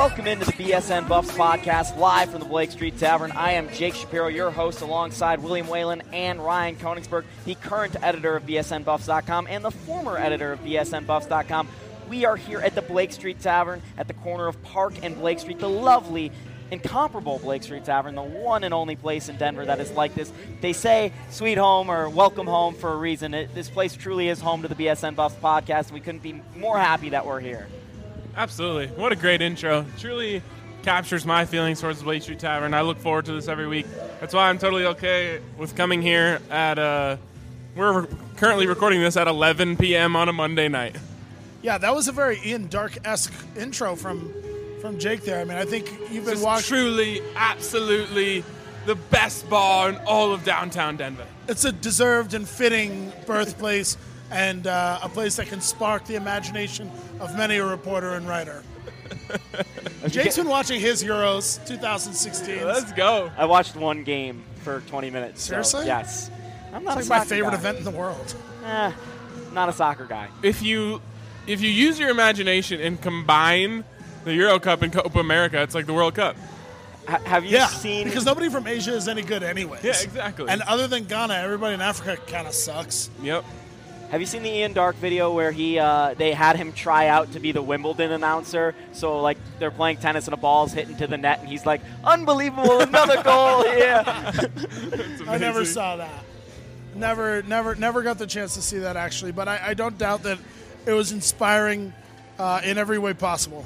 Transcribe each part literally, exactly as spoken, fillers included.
Welcome into the B S N Buffs podcast, live from the Blake Street Tavern. I am Jake Shapiro, your host, alongside William Whalen and Ryan Koenigsberg, the current editor of B S N Buffs dot com and the former editor of B S N Buffs dot com. We are here at the Blake Street Tavern at the corner of Park and Blake Street, the lovely, incomparable Blake Street Tavern, the one and only place in Denver that is like this. They say sweet home or welcome home for a reason. It, this place truly is home to the B S N Buffs podcast, and we couldn't be more happy that we're here. Absolutely. What a great intro. Truly captures my feelings towards the Blake Street Tavern. I look forward to this every week. That's why I'm totally okay with coming here at, uh, we're currently recording this at eleven p.m. on a Monday night. Yeah, that was a very Ian Dark-esque intro from from Jake there. I mean, I think you've been Just watching. truly, absolutely the best bar in all of downtown Denver. It's a deserved and fitting birthplace and uh, a place that can spark the imagination of many a reporter and writer. Jake's been watching his Euros twenty sixteen. Let's go. I watched one game for twenty minutes. So, Seriously? yes. I'm not It's a like my soccer favorite guy. event in the world. Eh, not a soccer guy. If you if you use your imagination and combine the Euro Cup and Copa America, it's like the World Cup. H- have you Yeah, seen... because nobody from Asia is any good anyways. Yeah, exactly. And other than Ghana, everybody in Africa kind of sucks. Yep. Have you seen the Ian Dark video where he uh, they had him try out to be the Wimbledon announcer? So, like, they're playing tennis and a ball's hitting to the net, and he's like, unbelievable, another goal, yeah. I never saw that. Never, never, never got the chance to see that, actually. But I, I don't doubt that it was inspiring uh, in every way possible.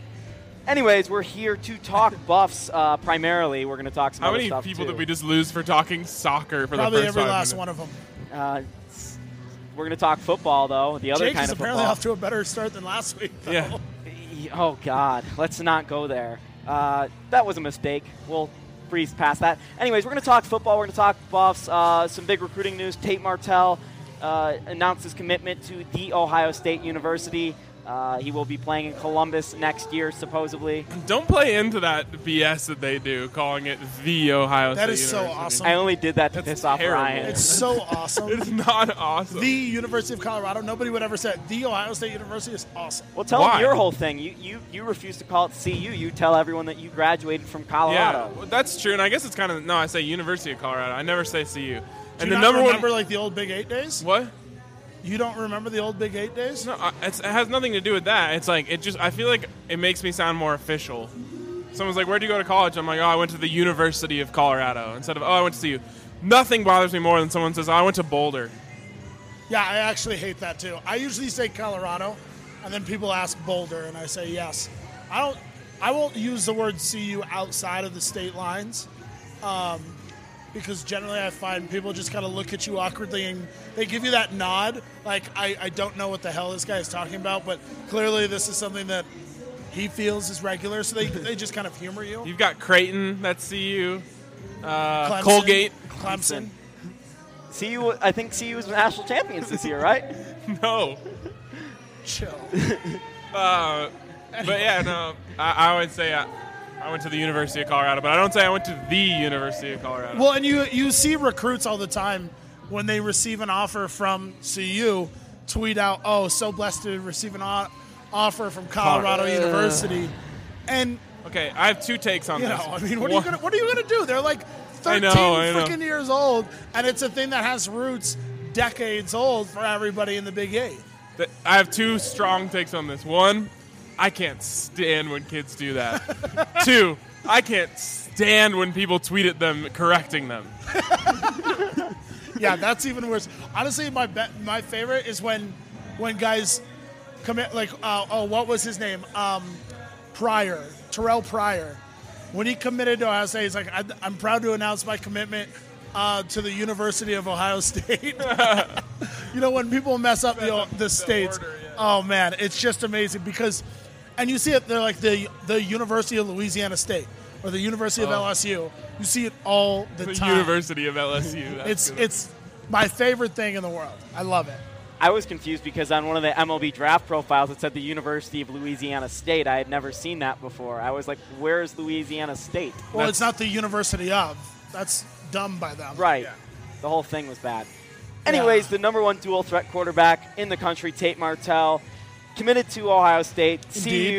Anyways, we're here to talk Buffs uh, primarily. We're going to talk some How other many stuff, people too. did we just lose for talking soccer for Probably the first every five last minutes? one of them. Uh, we're going to talk football, though, the other Jake kind is of apparently football. off to a better start than last week, though. Yeah. Oh, God. Let's not go there. Uh, that was a mistake. We'll breeze past that. Anyways, we're going to talk football. We're going to talk Buffs. Uh, some big recruiting news. Tate Martell uh, announced his commitment to The Ohio State University. Uh, he will be playing in Columbus next year, supposedly. Don't play into that B S that they do, calling it the Ohio That State is so University. awesome. I only did that to That's piss off terrible. Ryan. It's so awesome. It's not awesome. The University of Colorado, nobody would ever say it. The Ohio State University is awesome. Well, tell Why? them your whole thing. You, you you refuse to call it C U. You tell everyone that you graduated from yeah, Colorado. well, that's true, and I guess it's kind of no. I say University of Colorado. I never say C U. Do And you the not number remember one. like the old Big Eight days? What? You don't remember the old Big Eight days? No, I- it's, it has nothing to do with that. It's like it just. I feel like it makes me sound more official. Someone's like, "Where'd you go to college?" I'm like, "Oh, I went to the University of Colorado." Instead of, "Oh, I went to C U." Nothing bothers me more than someone says, "Oh, I went to Boulder." Yeah, I actually hate that too. I usually say Colorado, and then people ask Boulder, and I say yes. I don't. I won't use the word C U outside of the state lines, um, because generally I find people just kind of look at you awkwardly and they give you that nod, like I, I don't know what the hell this guy is talking about, but clearly this is something that he feels is regular, so they they just kind of humor you. You've got Creighton, that's C U. Uh, Clemson, Colgate, Clemson. C U, I think C U was national champions this year, right? no. Chill. Uh, but yeah, no. I, I would say I, I went to the University of Colorado, but I don't say I went to the University of Colorado. Well, and you you see recruits all the time when they receive an offer from C U tweet out, "Oh, so blessed to receive an o- offer from Colorado Uh. University," and okay, I have two takes on you this. know, I mean, what are you One- gonna what are you gonna do? They're like I thirteen know, I know. freaking years old, and it's a thing that has roots decades old for everybody in the Big Eight. th- I have two strong takes on this. One, I can't stand when kids do that. Two, I can't stand when people tweet at them correcting them. Yeah, that's even worse. Honestly, my be- my favorite is when when guys commit like uh, oh, what was his name? Um, Pryor, Terrell Pryor. When he committed to Ohio State, he's like, I- I'm proud to announce my commitment uh, to the University of Ohio State. You know, when people mess up the the states, order, yeah. oh man, it's just amazing because, and you see it. They're like the the University of Louisiana State or the University of Oh. L S U. You see it all the, The time. University of L S U. That's It's good. it's my favorite thing in the world. I love it. I was confused because on one of the M L B draft profiles it said the University of Louisiana State. I had never seen that before. I was like, where's Louisiana State? Well, That's- it's not the University of. That's dumb by them. Right. Yeah. The whole thing was bad. Anyways, the number one dual threat quarterback in the country, Tate Martell, committed to Ohio State. C U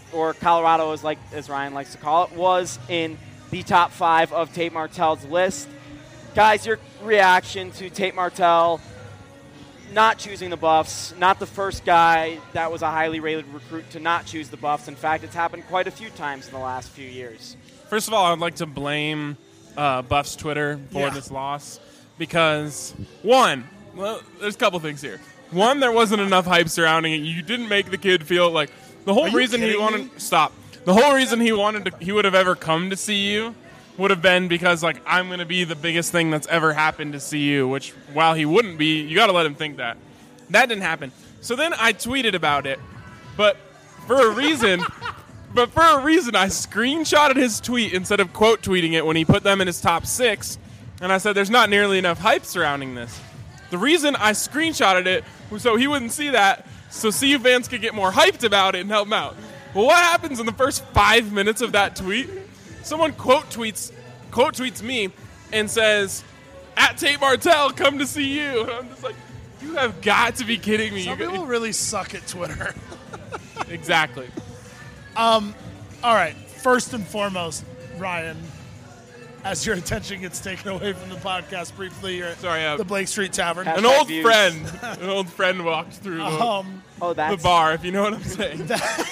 or Colorado, as like as Ryan likes to call it, was in the top five of Tate Martell's list. Guys, your reaction to Tate Martell not choosing the Buffs, not the first guy that was a highly rated recruit to not choose the Buffs. In fact, it's happened quite a few times in the last few years. First of all, I'd like to blame uh, Buffs Twitter for Yeah. this loss because, one, well, there's a couple things here. One, there wasn't enough hype surrounding it. You didn't make the kid feel like the whole Are you reason he kidding wanted me? stop. The whole reason he wanted to, he would have ever come to C U would have been because, like, I'm going to be the biggest thing that's ever happened to C U, which, while he wouldn't be, you got to let him think that. That didn't happen. So then I tweeted about it, but for a reason, but for a reason, I screenshotted his tweet instead of quote tweeting it when he put them in his top six, and I said there's not nearly enough hype surrounding this. The reason I screenshotted it was so he wouldn't see that, so C U fans could get more hyped about it and help him out. Well, what happens in the first five minutes of that tweet? Someone quote tweets, quote tweets me and says, "At Tate Martell, come to see you." And I'm just like, you have got to be kidding me. Some You people got- really suck at Twitter. exactly. All right, first and foremost, Ryan, as your attention gets taken away from the podcast briefly, you're at Sorry, uh, the Blake Street Tavern. Hashtag An old views. friend, an old friend walked through the, Um, Oh, the that's bar, if you know what I'm saying.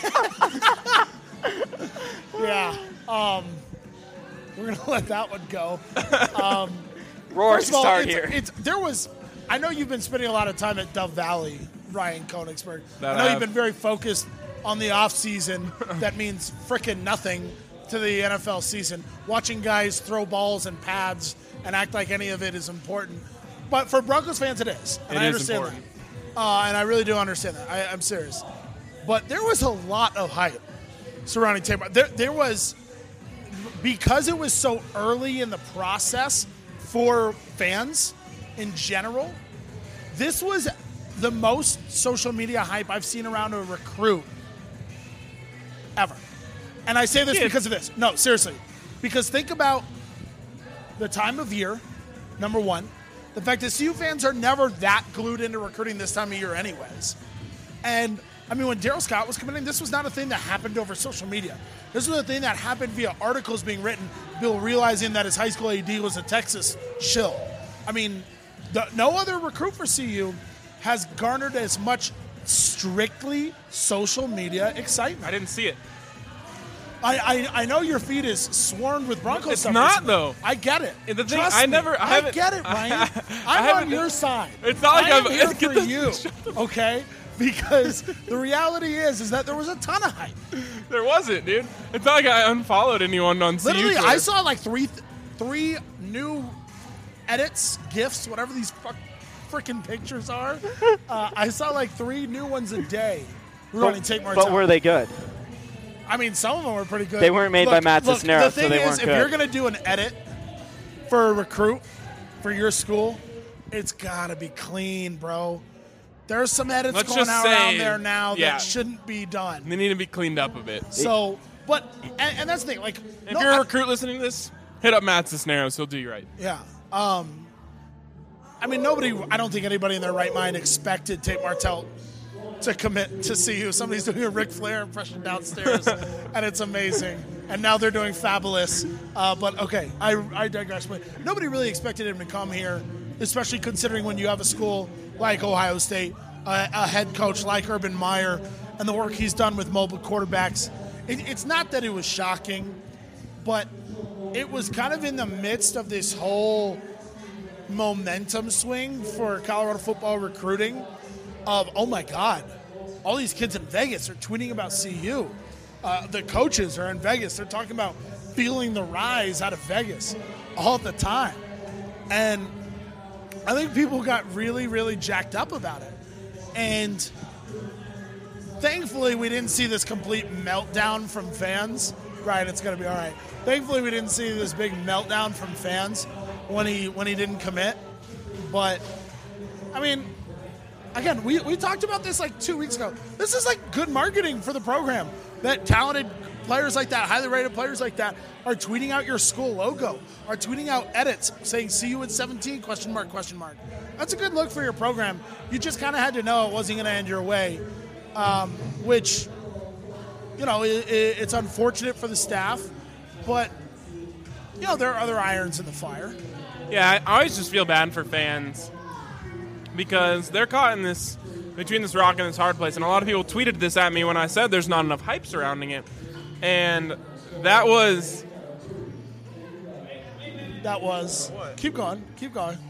yeah, um, we're gonna let that one go. roar First of all, start it's, here. it's there was. I know you've been spending a lot of time at Dove Valley, Ryan Koenigsberg. That I know I you've have. been very focused on the off season. That means frickin' nothing to the N F L season. Watching guys throw balls and pads and act like any of it is important. But for Broncos fans, it is. And It I is understand important. that. Uh, and I really do understand that. I, I'm serious. But there was a lot of hype surrounding Tate Martell. There, there was, because it was so early in the process for fans in general, this was the most social media hype I've seen around a recruit ever. And I say this Yeah. because of this. No, seriously. Because think about the time of year, number one. The fact that C U fans are never that glued into recruiting this time of year anyways. And, I mean, when Darryl Scott was coming in, this was not a thing that happened over social media. This was a thing that happened via articles being written, Bill realizing that his high school A D was a Texas shill. I mean, the, no other recruit for C U has garnered as much strictly social media excitement. I didn't see it. I, I, I know your feed is swarmed with Broncos It's stuff not, recently. though. I get it. And the thing- Trust I me. never- I I haven't- get it, Ryan. I I'm on haven't- your side. It's not like I am I'm- here get for this- you, shut okay? Because the reality is, is that there was a ton of hype. There wasn't, dude. It's not like I unfollowed anyone on C U Literally, Twitter. I saw like three, three new edits, gifs, whatever these fuck, freaking pictures are. Uh, I saw like three new ones a day regarding Tate Martell. But were they good? I mean, some of them were pretty good. They weren't made by Matt look, Cisneros, The thing so they is, weren't if good. you're going to do an edit for a recruit for your school, it's got to be clean, bro. There's some edits Let's going just out say- around there now yeah. that shouldn't be done. They need to be cleaned up a bit. So, but, and, and that's the thing. Like, If no, you're a I- recruit listening to this, hit up Matt Cisneros. He'll do you right. Yeah. Um, I mean, nobody, I don't think anybody in their right mind expected Tate Martell to commit to C U. Somebody's doing a Ric Flair impression downstairs, and it's amazing. And now they're doing Fabulous. Uh, but okay, I, I digress. But nobody really expected him to come here, especially considering when you have a school like Ohio State, uh, a head coach like Urban Meyer, and the work he's done with mobile quarterbacks. It, it's not that it was shocking, but it was kind of in the midst of this whole momentum swing for Colorado football recruiting of, oh my God, all these kids in Vegas are tweeting about C U. Uh, the coaches are in Vegas. They're talking about feeling the rise out of Vegas all the time. And I think people got really, really jacked up about it. And thankfully, we didn't see this complete meltdown from fans. Right, it's going to be all right. Thankfully, we didn't see this big meltdown from fans when he when he didn't commit. But, I mean, again, we, we talked about this like two weeks ago. This is like good marketing for the program. That talented players like that, highly rated players like that, are tweeting out your school logo, are tweeting out edits saying "See you at seventeen?" question mark question mark. That's a good look for your program. You just kind of had to know it wasn't going to end your way, um, which you know, it, it, it's unfortunate for the staff, but, you know, there are other irons in the fire. Yeah, I always just feel bad for fans because they're caught in this, between this rock and this hard place. And a lot of people tweeted this at me when I said there's not enough hype surrounding it. And that was... That was... What? Keep going. Keep going.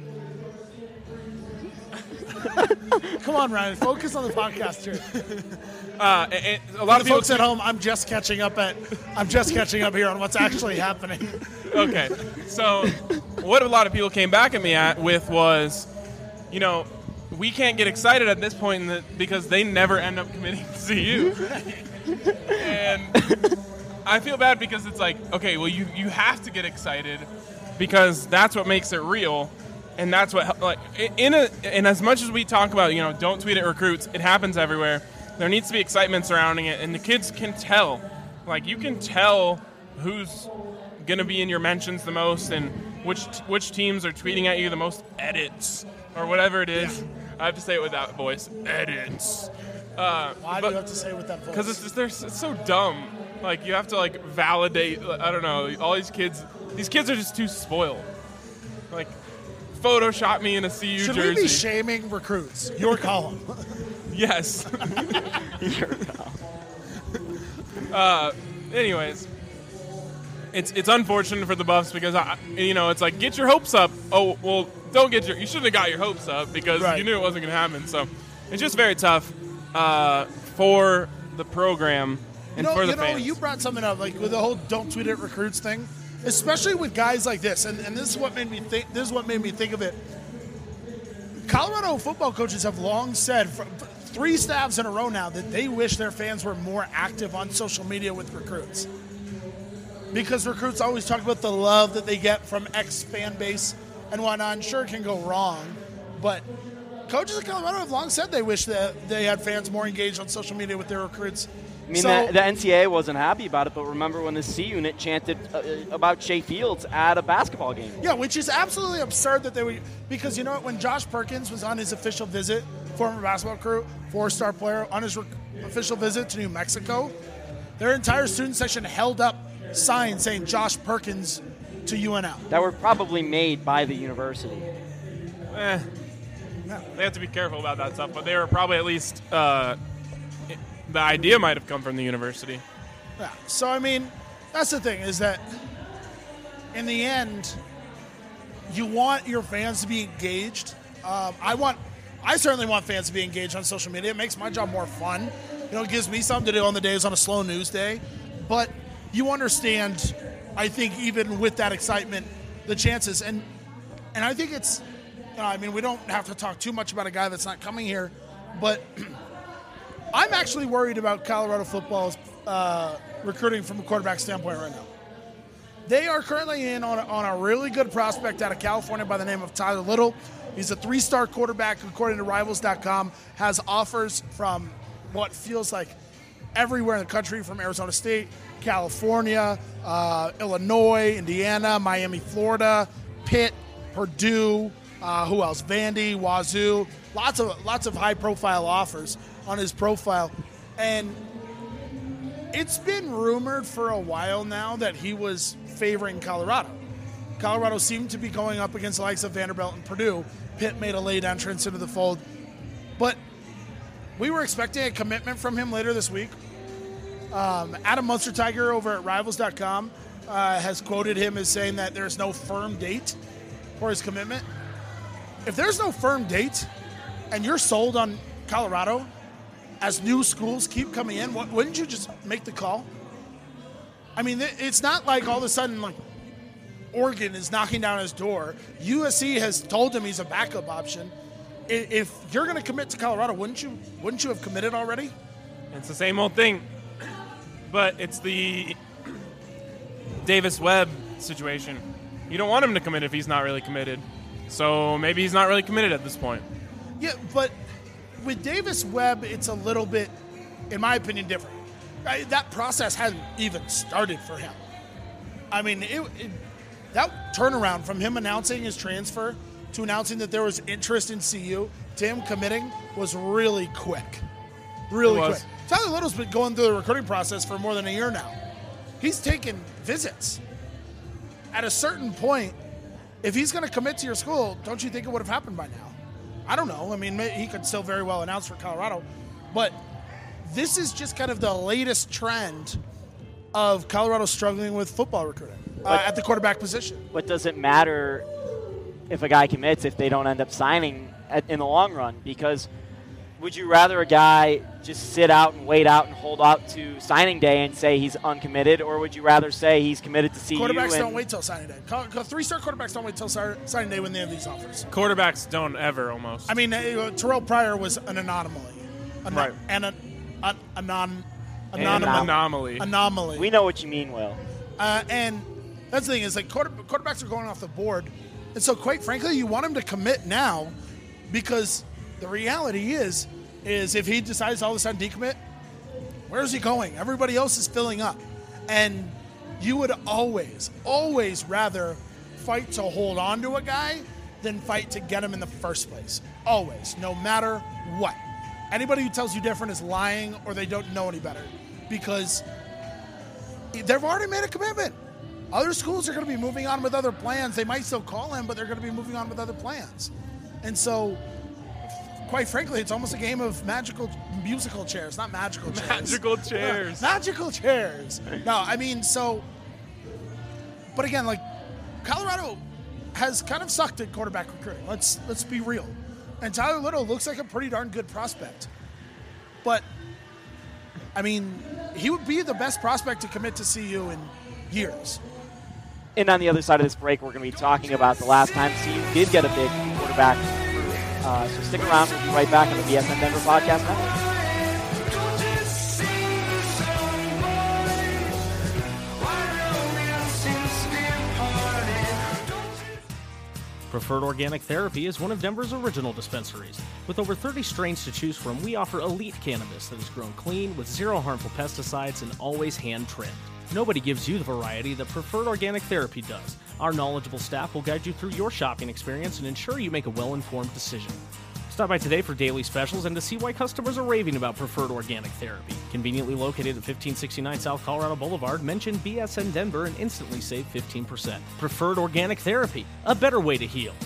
Come on, Ryan. Focus on the podcast here. Uh, and, and a lot For of the people folks at home, I'm just catching up at. I'm just catching up here on what's actually happening. Okay, so what a lot of people came back at me at with was, you know, we can't get excited at this point in the, because they never end up committing to C U. And I feel bad because it's like, okay, well, you, you have to get excited because that's what makes it real. And that's what, like, in a, and as much as we talk about, you know, don't tweet at recruits, it happens everywhere. There needs to be excitement surrounding it, and the kids can tell. Like, you can tell who's going to be in your mentions the most and which which teams are tweeting at you the most edits or whatever it is. Yeah. I have to say it with that voice. Edits. Uh, Why do you have to say it with that voice? Because it's, just, they're, it's so dumb. Like, you have to, like, validate, I don't know, all these kids, these kids are just too spoiled. Like, Photoshop me in a C U Should jersey. we be shaming recruits? Your column. Yes. uh, anyways, it's it's unfortunate for the Buffs because I, you know, it's like get your hopes up. Oh well, don't get your. You shouldn't have got your hopes up because right. you knew it wasn't going to happen. So it's just very tough uh, for the program and you know, for the you know, fans. You brought something up like with the whole "don't tweet at recruits" thing, especially with guys like this, and, and this is what made me think. This is what made me think of it. Colorado football coaches have long said, for three staffs in a row now, that they wish their fans were more active on social media with recruits. Because recruits always talk about the love that they get from X fan base and whatnot. And sure, it can go wrong, but coaches in Colorado have long said they wish that they had fans more engaged on social media with their recruits. I mean, so, the, the N C A A wasn't happy about it, but remember when the C unit chanted uh, about Shea Fields at a basketball game? Yeah, which is absolutely absurd that they would, because you know what, when Josh Perkins was on his official visit, former basketball crew, four-star player, on his re- official visit to New Mexico, their entire student section held up signs saying Josh Perkins to U N L. That were probably made by the university. Eh, Yeah. they have to be careful about that stuff, but they were probably at least uh, it, the idea might have come from the university. Yeah. So, I mean, that's the thing, is that in the end, you want your fans to be engaged. Um, I want, I certainly want fans to be engaged on social media. It makes my job more fun. You know, it gives me something to do on the days on a slow news day. But you understand, I think, even with that excitement, the chances. And and I think it's, you know, I mean, we don't have to talk too much about a guy that's not coming here, but I'm actually worried about Colorado football's uh, recruiting from a quarterback standpoint right now. They are currently in on a, on a really good prospect out of California by the name of Tyler Little. He's a three-star quarterback, according to Rivals dot com, has offers from what feels like everywhere in the country, from Arizona State, California, uh, Illinois, Indiana, Miami, Florida, Pitt, Purdue, uh, who else? Vandy, Wazoo, lots of lots of high-profile offers on his profile. And it's been rumored for a while now that he was favoring Colorado. Colorado seemed to be going up against the likes of Vanderbilt and Purdue. Pitt made a late entrance into the fold. But we were expecting a commitment from him later this week. Um, Adam Munster-Tiger over at Rivals dot com uh, has quoted him as saying that there's no firm date for his commitment. If there's no firm date and you're sold on Colorado, as new schools keep coming in, wouldn't you just make the call? I mean, it's not like all of a sudden, like, Oregon is knocking down his door. U S C has told him he's a backup option. If you're going to commit to Colorado, wouldn't you wouldn't you have committed already? It's the same old thing, but it's the Davis Webb situation. You don't want him to commit if he's not really committed. So maybe he's not really committed at this point. Yeah, but with Davis Webb, it's a little bit, in my opinion, different. I, that process hasn't even started for him. I mean, it, it, that turnaround from him announcing his transfer to announcing that there was interest in C U to him committing was really quick. Really quick. Tyler Little's been going through the recruiting process for more than a year now. He's taken visits. At a certain point, if he's going to commit to your school, don't you think it would have happened by now? I don't know. I mean, he could still very well announce for Colorado. But this is just kind of the latest trend of Colorado struggling with football recruiting uh, at the quarterback position. But does it matter if a guy commits if they don't end up signing at, in the long run? Because would you rather a guy just sit out and wait out and hold out to signing day and say he's uncommitted, or would you rather say he's committed to C U? Quarterbacks don't wait till signing day. Three-star quarterbacks don't wait till signing day when they have these offers. Quarterbacks don't ever, almost. I mean, uh, Terrell Pryor was an anomaly. An- right. And a, a, a non An anomaly. anomaly. Anomaly. We know what you mean, Will. Uh, and that's the thing is, like, quarter, quarterbacks are going off the board. And so, quite frankly, you want him to commit now because the reality is, is if he decides all of a sudden decommit, where is he going? Everybody else is filling up. And you would always, always rather fight to hold on to a guy than fight to get him in the first place. Always, no matter what. Anybody who tells you different is lying or they don't know any better because they've already made a commitment. Other schools are going to be moving on with other plans. They might still call him, but they're going to be moving on with other plans. And so, quite frankly, it's almost a game of magical musical chairs, not magical chairs. Magical chairs. Yeah, magical chairs. No, I mean, so, but again, like, Colorado has kind of sucked at quarterback recruiting. Let's let's be real. And Tyler Little looks like a pretty darn good prospect. But, I mean, he would be the best prospect to commit to C U in years. And on the other side of this break, we're going to be talking about the last time C U did get a big quarterback. Uh, so stick around. We'll be right back on the B S N Denver Podcast Network. Preferred Organic Therapy is one of Denver's original dispensaries. With over thirty strains to choose from, we offer elite cannabis that is grown clean with zero harmful pesticides and always hand-trimmed. Nobody gives you the variety that Preferred Organic Therapy does. Our knowledgeable staff will guide you through your shopping experience and ensure you make a well-informed decision. Stop by today for daily specials and to see why customers are raving about Preferred Organic Therapy. Conveniently located at fifteen sixty-nine South Colorado Boulevard, mention B S N Denver and instantly save fifteen percent. Preferred Organic Therapy, a better way to heal.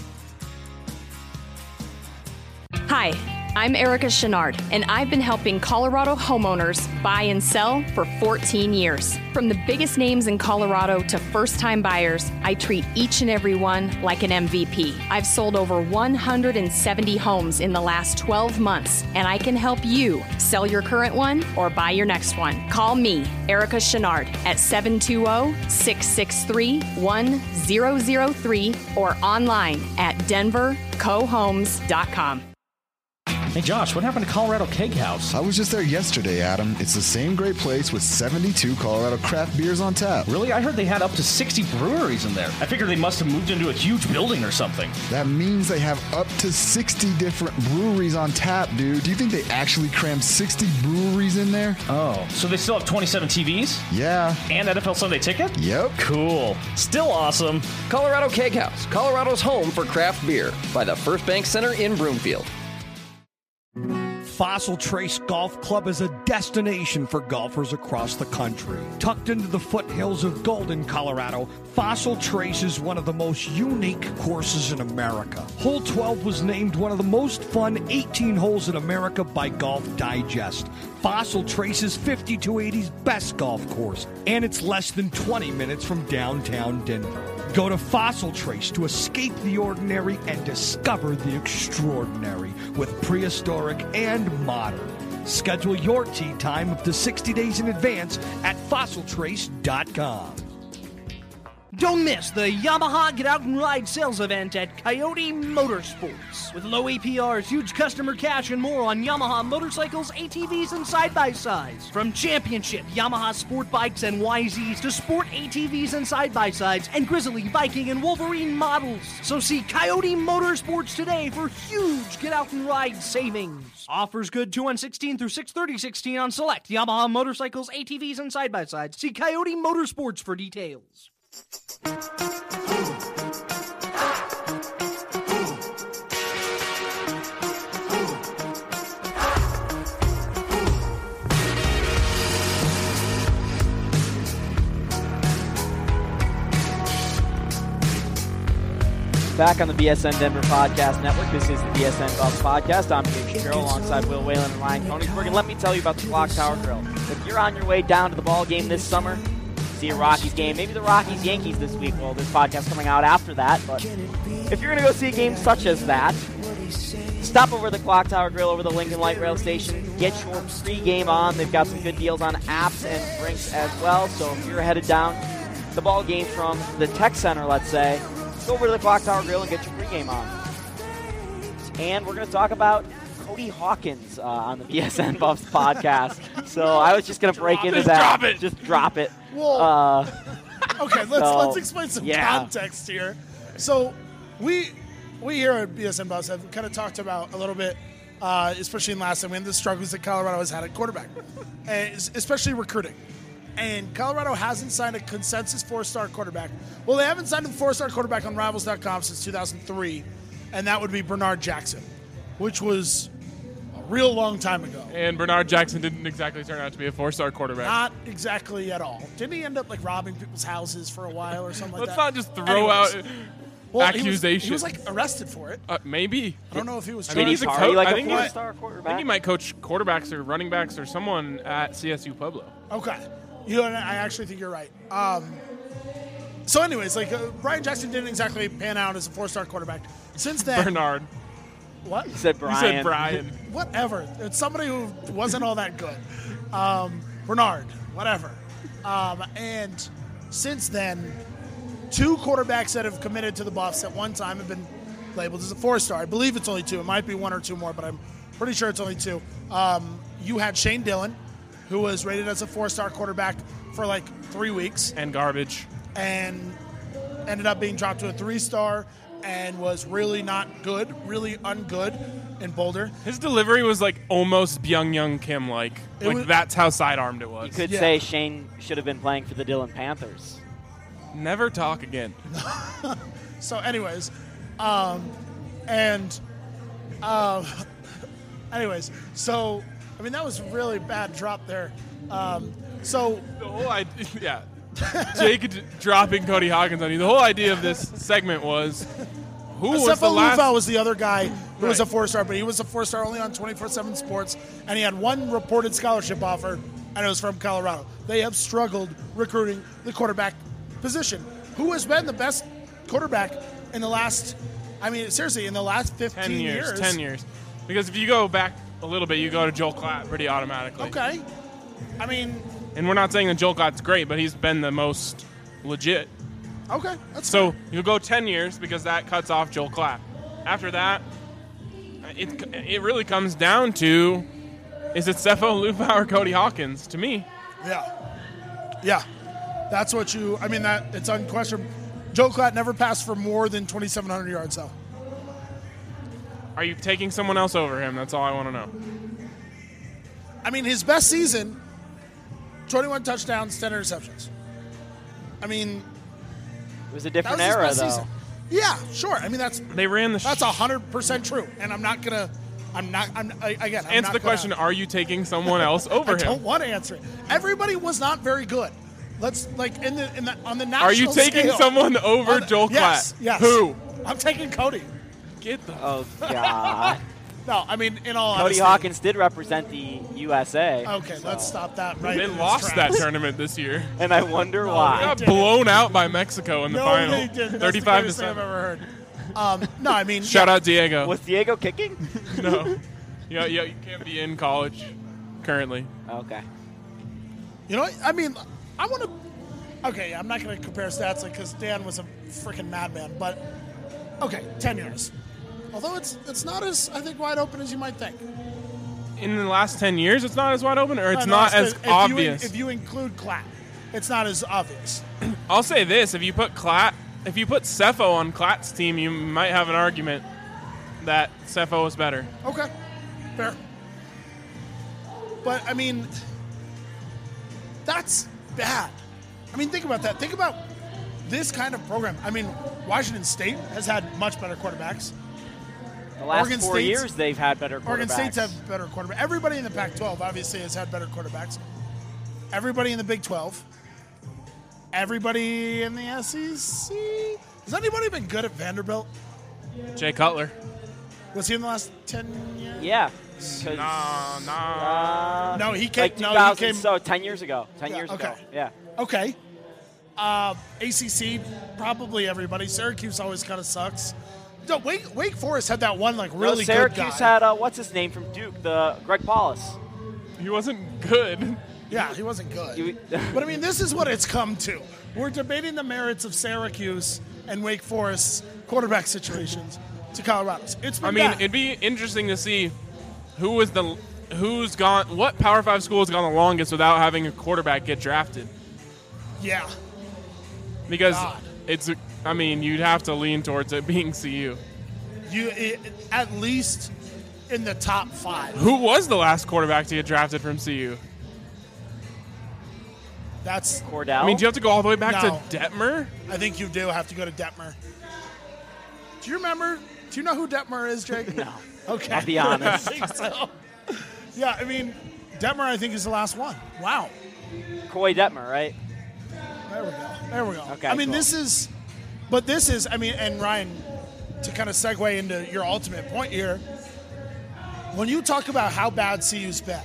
Hi, I'm Erica Chenard, and I've been helping Colorado homeowners buy and sell for fourteen years. From the biggest names in Colorado to first-time buyers, I treat each and every one like an M V P. I've sold over one hundred seventy homes in the last twelve months, and I can help you sell your current one or buy your next one. Call me, Erica Chenard, at seven two zero, six six three, one zero zero three or online at denver co homes dot com. Hey Josh, what happened to Colorado Keg House? I was just there yesterday, Adam. It's the same great place with seventy-two Colorado craft beers on tap. Really? I heard they had up to sixty breweries in there. I figured they must have moved into a huge building or something. That means they have up to sixty different breweries on tap, dude. Do you think they actually crammed sixty breweries in there? Oh, so they still have twenty-seven T Vs? Yeah. And N F L Sunday Ticket? Yep. Cool. Still awesome. Colorado Keg House, Colorado's home for craft beer, by the First Bank Center in Broomfield. Fossil Trace Golf Club is a destination for golfers across the country. Tucked into the foothills of Golden, Colorado, Fossil Trace is one of the most unique courses in America. Hole twelve was named one of the most fun eighteen holes in America by Golf Digest. Fossil Trace is fifty-two eighty's best golf course, and it's less than twenty minutes from downtown Denver. Go to Fossil Trace to escape the ordinary and discover the extraordinary with prehistoric and modern. Schedule your tee time up to sixty days in advance at fossil trace dot com. Don't miss the Yamaha Get Out and Ride sales event at Coyote Motorsports. With low A P Rs, huge customer cash, and more on Yamaha motorcycles, A T Vs, and side-by-sides. From championship Yamaha sport bikes and Y Zs to sport A T Vs and side-by-sides and Grizzly, Viking, and Wolverine models. So see Coyote Motorsports today for huge Get Out and Ride savings. Offers good two one sixteen through six thirty sixteen on select Yamaha motorcycles, A T Vs, and side-by-sides. See Coyote Motorsports for details. Back on the B S N Denver Podcast Network. This is the B S N Buffs Podcast. I'm Jake Shapiro alongside Will Whalen and Ryan Koenigsberg. And let me tell you about the Clock Tower Grill. If you're on your way down to the ball game this summer, see a Rockies game, maybe the Rockies-Yankees this week. Well, this podcast coming out after that. But if you're going to go see a game such as that, stop over the Clock Tower Grill over the Lincoln Light Rail Station. Get your pre-game on. They've got some good deals on apps and drinks as well. So if you're headed down to the ball game from the Tech Center, let's say, go over to the Clock Tower Grill and get your pregame on. And we're going to talk about Cody Hawkins uh, on the B S N Buffs podcast. So I was just going to break into it, that. Drop it. Just drop it. Well, uh, okay, let's so, let's explain some yeah. context here. So we we here at B S N Buffs have kind of talked about a little bit, uh, especially in last time, we had the struggles that Colorado has had at quarterback, and especially recruiting. And Colorado hasn't signed a consensus four-star quarterback. Well, they haven't signed a four-star quarterback on Rivals dot com since two thousand three, and that would be Bernard Jackson, which was a real long time ago. And Bernard Jackson didn't exactly turn out to be a four-star quarterback. Not exactly at all. Didn't he end up like robbing people's houses for a while or something like Let's that? not just throw Anyways. out well, accusations. He was, he was like arrested for it. Uh, maybe. I don't know if he was. I mean, he's a Party coach. like I a think, he might, four-star I quarterback. think he might coach quarterbacks or running backs or someone at C S U Pueblo. Okay. You know, I actually think you're right. Um, so, anyways, like uh, Brian Jackson didn't exactly pan out as a four-star quarterback. Since then, Bernard. What? He said You Brian. said Brian. Whatever. It's somebody who wasn't all that good. Um, Bernard. Whatever. Um, and since then, two quarterbacks that have committed to the Buffs at one time have been labeled as a four-star. I believe it's only two. It might be one or two more, but I'm pretty sure it's only two. Um, you had Shane Dillon, who was rated as a four-star quarterback for like three weeks. And garbage. And ended up being dropped to a three-star and was really not good, really ungood in Boulder. His delivery was like almost Byung Young Kim like. It Like was- that's how sidearmed it was. You could Yeah. say Shane should have been playing for the Dillon Panthers. Never talk again. So, anyways, um, and, um, anyways, so, I mean, that was a really bad drop there. Um, so, The whole idea, yeah. Jake d- dropping Cody Hawkins on you. The whole idea of this segment was who was the Sefo last. Lufau was the other guy who was a Right. four-star, but he was a four-star only on twenty-four seven Sports, and he had one reported scholarship offer, and it was from Colorado. They have struggled recruiting the quarterback position. Who has been the best quarterback in the last, I mean, seriously, in the last fifteen ten years, years? ten years. Because if you go back a little bit, you go to Joel Klatt pretty automatically. Okay. I mean, And we're not saying that Joel Klatt's great, but he's been the most legit. okay. That's So you go ten years because that cuts off Joel Klatt. After that, it it really comes down to, is it Sefo Lufau or Cody Hawkins? To me, Yeah. Yeah. That's what you, I mean, that it's unquestionable. Joe Klatt never passed for more than twenty-seven hundred yards, though. are you taking someone else over him? That's all I want to know. I mean, his best season, twenty-one touchdowns, ten interceptions. I mean, It was a that different was his era, best though. season. Yeah, sure. I mean, that's They ran the. that's one hundred percent true. And I'm not going to, I'm not, I'm, I, again, I'm answer not the gonna- question: are you taking someone else over I him? don't want to answer it. Everybody was not very good. Let's, like, in the, in the on the national Are you taking scale- someone over on the- Joel yes, Klatt? Yes. Who? I'm taking Cody. Get the. Oh, God. No, I mean, in all Cody honesty. Hawkins did represent the U S A. Okay, so- let's stop that right They in its lost that tracks. tournament this year. And I wonder No, why. They got didn't. blown out by Mexico in the No, final, they didn't. That's thirty-five the to greatest thing I've seven. ever heard. Um, no, I mean, Shout yeah. out Diego. Was Diego kicking? No, yeah, yeah, you can't be in college currently. Okay. You know, what? I mean, I want to. Okay, I'm not going to compare stats because Dan was a freaking madman, but okay, ten years. Although it's it's not as I think wide open as you might think. In the last ten years, it's not as wide open, or it's No, no, not as if you- obvious. if you include Klatt, it's not as obvious. I'll say this: if you put Klatt, if you put Sefo on Klatt's team, you might have an argument that Sefo is better. Okay, fair. But I mean, that's bad. I mean, think about that. Think about this kind of program. I mean, Washington State has had much better quarterbacks. The last Oregon four State's- years, they've had better quarterbacks. Oregon State's have better quarterbacks. Everybody in the Pac twelve obviously has had better quarterbacks. Everybody in the Big twelve. Everybody in the S E C Has anybody been good at Vanderbilt? Jay Cutler. Was he in the last ten years? Yeah. Nah, nah. Uh, No, he came. like two no, thousand, he came. so ten years ago. ten Yeah, years okay. ago. Yeah. Okay. Uh, A C C, probably everybody. Syracuse always kind of sucks. No, Wake, Wake Forest had that one like really no, Syracuse good guy. had uh, what's his name from Duke, the Greg Paulus. He wasn't good. Yeah, he wasn't good. You- But I mean, this is what it's come to. We're debating the merits of Syracuse and Wake Forest's quarterback situations to Colorado's. It's been I mean, bad. it'd be interesting to see who was the who's gone. What Power Five school has gone the longest without having a quarterback get drafted? yeah. Because God. it's. I mean, you'd have to lean towards it being C U. You it, at least in the top five. Who was the last quarterback to get drafted from C U? That's Cordell. I mean, do you have to go all the way back No. to Detmer? I think you do have to go to Detmer. Do you remember? Do you know who Detmer is, Jake? No. Okay. I'll be honest. I think so. Yeah, I mean, Detmer, I think, is the last one. Wow. Coy Detmer, right? There we go. There we go. Okay, I mean, cool. this is, but this is, I mean, and Ryan, to kind of segue into your ultimate point here, when you talk about how bad C U's been,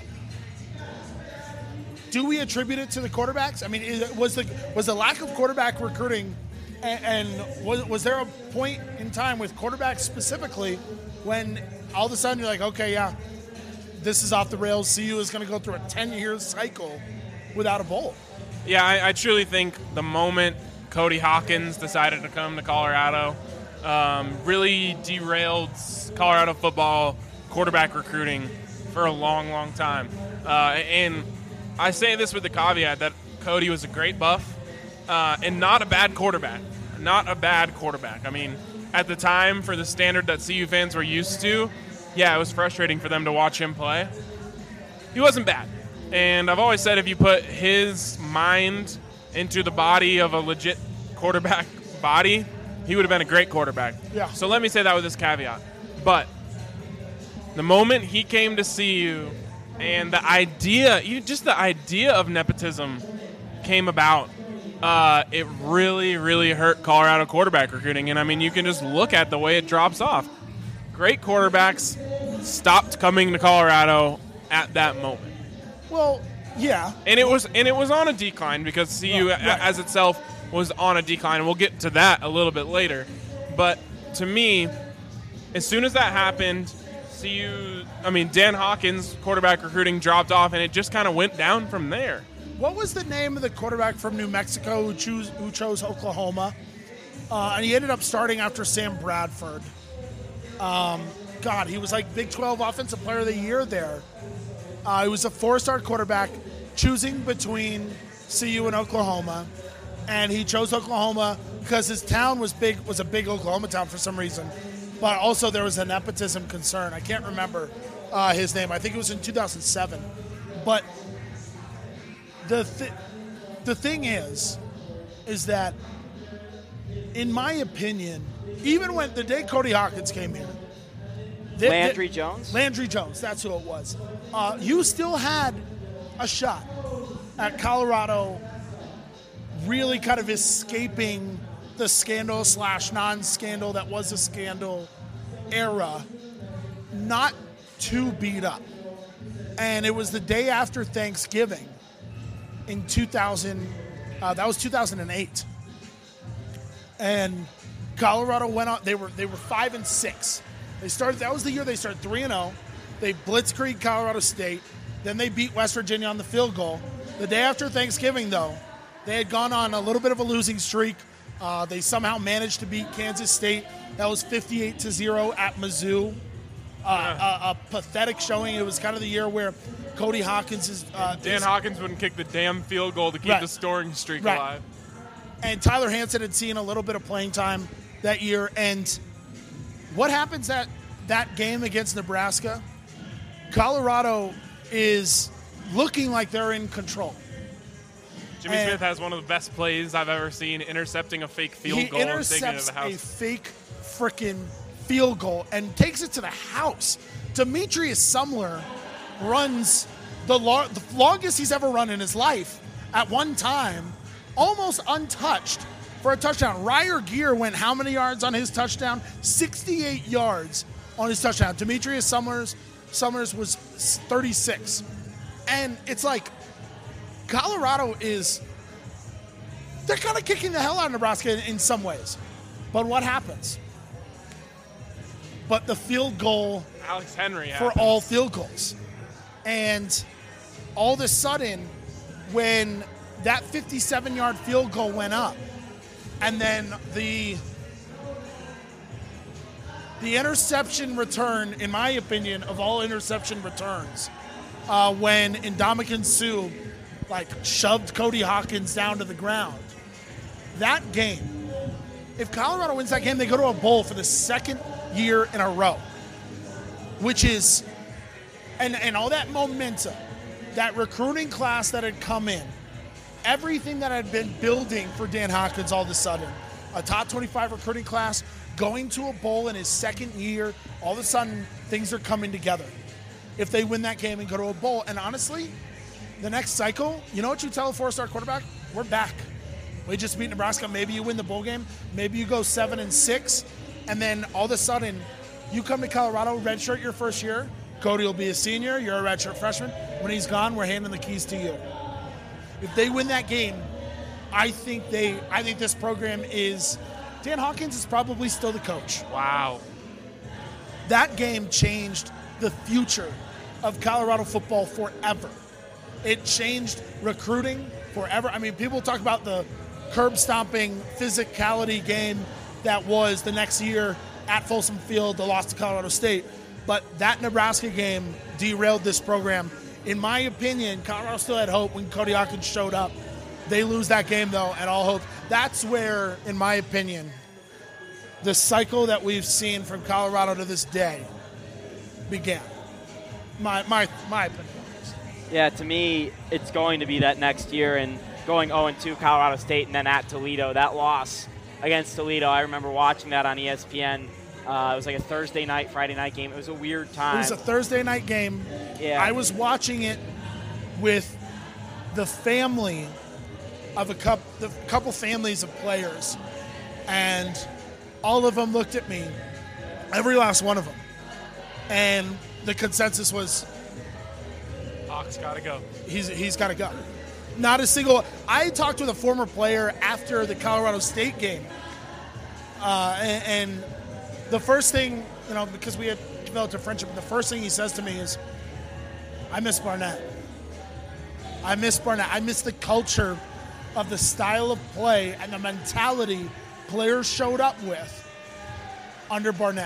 do we attribute it to the quarterbacks? I mean, is, was the was the lack of quarterback recruiting, and, and was was there a point in time with quarterbacks specifically when all of a sudden you're like, okay, yeah, this is off the rails. C U is going to go through a ten-year cycle without a bowl. Yeah, I, I truly think the moment Cody Hawkins decided to come to Colorado um, really derailed Colorado football quarterback recruiting for a long, long time. Uh, and I say this with the caveat that Cody was a great buff uh, and not a bad quarterback. Not a bad quarterback. I mean, at the time, for the standard that C U fans were used to, yeah, it was frustrating for them to watch him play. He wasn't bad. And I've always said if you put his mind into the body of a legit quarterback body, he would have been a great quarterback. Yeah. So let me say that with this caveat. But the moment he came to C U and the idea, you- just the idea of nepotism came about, uh, it really, really hurt Colorado quarterback recruiting. And, I mean, you can just look at the way it drops off. Great quarterbacks stopped coming to Colorado at that moment. Well, yeah. And it was and it was on a decline because C U Right, right. as itself was on a decline. And we'll get to that a little bit later. But to me, as soon as that happened, C U, I mean, Dan Hawkins' quarterback recruiting dropped off, and it just kind of went down from there. What was the name of the quarterback from New Mexico who, choose, who chose Oklahoma? Uh, and he ended up starting after Sam Bradford. Um, God, he was like Big twelve Offensive Player of the Year there. Uh, he was a four-star quarterback choosing between C U and Oklahoma, and he chose Oklahoma because his town was big, was a big Oklahoma town for some reason. But also there was a nepotism concern. I can't remember uh, his name. I think it was in two thousand seven. But the th- the thing is, is that in my opinion, even when the day Cody Hawkins came here, they- Landry they- Jones? Landry Jones, that's who it was. Uh, you still had a shot at Colorado really kind of escaping the scandal slash non-scandal that was a scandal era, not too beat up. And it was the day after Thanksgiving in two thousand, uh, that was two thousand eight. And Colorado went on, they were they were five and six. They started, that was the year they started three and oh. They blitzkrieg Colorado State. Then they beat West Virginia on the field goal. The day after Thanksgiving, though, they had gone on a little bit of a losing streak. Uh, they somehow managed to beat Kansas State. That was fifty-eight to zero at Mizzou. Uh, a, a pathetic showing. It was kind of the year where Cody Hawkins is. Uh, Dan is- Hawkins wouldn't kick the damn field goal to keep Right. the scoring streak Right. alive. And Tyler Hansen had seen a little bit of playing time that year. And what happens at that game against Nebraska? Colorado is looking like they're in control. Jimmy And- Smith has one of the best plays I've ever seen, intercepting a fake field he goal and taking it intercepts to the a house. fake freaking field goal and takes it to the house. Demetrius Sumler runs the, lo- the longest he's ever run in his life at one time, almost untouched, for a touchdown. Ryer Gear went how many yards on his touchdown? sixty-eight yards on his touchdown. Demetrius Summers Summers was thirty-six. And it's like Colorado is – they're kind of kicking the hell out of Nebraska in, in some ways. But what happens? But the field goal Alex Henry for happens. all field goals. And all of a sudden, when that fifty-seven-yard field goal went up, and then the the interception return, in my opinion, of all interception returns, uh, when Ndamukong Suh like shoved Cody Hawkins down to the ground, that game, if Colorado wins that game, they go to a bowl for the second year in a row, which is, and, and all that momentum, that recruiting class that had come in, everything that had been building for Dan Hawkins all of a sudden, a top twenty-five recruiting class, going to a bowl in his second year, all of a sudden things are coming together. If they win that game and go to a bowl, and honestly, the next cycle, you know what you tell a four-star quarterback? We're back. We just beat Nebraska. Maybe you win the bowl game. Maybe you go seven and six, and then all of a sudden you come to Colorado, redshirt your first year. Cody will be a senior. You're a redshirt freshman. When he's gone, we're handing the keys to you. If they win that game, I think they. I think this program is. Dan Hawkins is probably still the coach. Wow. That game changed the future of Colorado football forever. It changed recruiting forever. I mean, people talk about the curb-stomping physicality game that was the next year at Folsom Field, the loss to Colorado State. But that Nebraska game derailed this program. In my opinion, Colorado still had hope when Cody Hawkins showed up. They lose that game, though, and all hope. That's where, in my opinion, the cycle that we've seen from Colorado to this day began. My my my opinion. Yeah, to me, it's going to be that next year, and going oh and two Colorado State and then at Toledo. That loss against Toledo, I remember watching that on E S P N. Uh, it was like a Thursday night, Friday night game. It was a weird time. It was a Thursday night game. Yeah. I was watching it with the family of a couple, the couple families of players, and all of them looked at me, every last one of them, and the consensus was, Hawks gotta go. He's he's got to go. Not a single. I talked with a former player after the Colorado State game, uh, and, and the first thing, you know, because we had developed a friendship, the first thing he says to me is, "I miss Barnett. I miss Barnett. I miss the culture of the style of play and the mentality players showed up with under Barnett."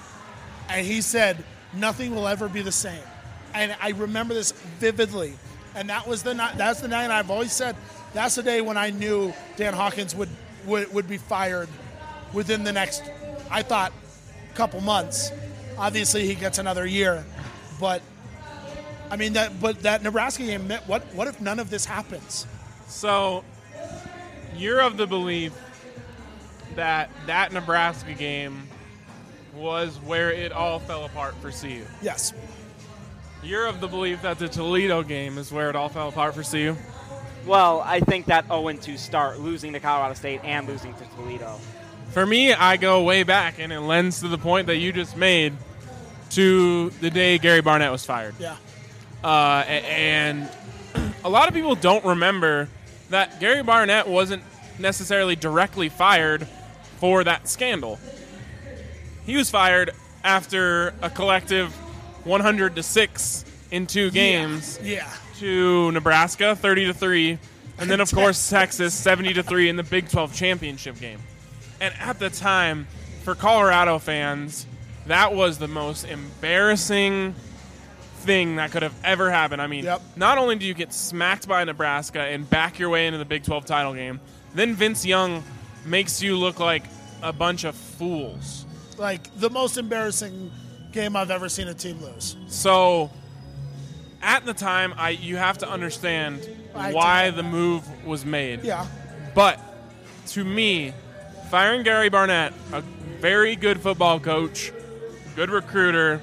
And he said, "Nothing will ever be the same." And I remember this vividly. And that was the night. That's the night I've always said. That's the day when I knew Dan Hawkins would, would would be fired within the next, I thought, couple months. Obviously, he gets another year, but I mean that. But that Nebraska game. What what if none of this happens? So, you're of the belief that that Nebraska game was where it all fell apart for C U. Yes. You're of the belief that the Toledo game is where it all fell apart for C U? Well, I think that oh and two start, losing to Colorado State and losing to Toledo. For me, I go way back, and it lends to the point that you just made to the day Gary Barnett was fired. Yeah. Uh, and a lot of people don't remember that Gary Barnett wasn't necessarily directly fired for that scandal. He was fired after a collective one hundred to six in two games Yeah. yeah. to Nebraska, thirty to three, and then, of course, Texas, seventy to three in the Big twelve championship game. And at the time, for Colorado fans, that was the most embarrassing thing that could have ever happened. I mean, Yep. not only do you get smacked by Nebraska and back your way into the Big twelve title game, then Vince Young makes you look like a bunch of fools. Like the most embarrassing game I've ever seen a team lose. So, at the time, I you have to understand I why do. the move was made. Yeah. But to me, firing Gary Barnett, a very good football coach, good recruiter,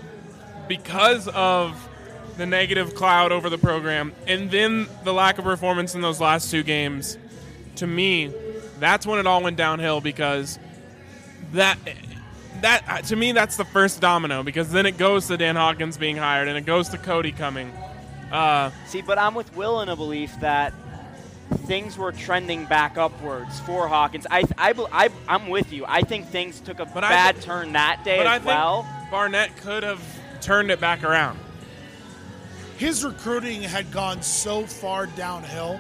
because of the negative cloud over the program, and then the lack of performance in those last two games, to me, that's when it all went downhill because that that to me that's the first domino because then it goes to Dan Hawkins being hired and it goes to Cody coming. Uh, See, but I'm with Will in a belief that things were trending back upwards for Hawkins. I, I, I, I'm with you. I think things took a bad th- turn that day but as I well. Think Barnett could have turned it back around. His recruiting had gone so far downhill.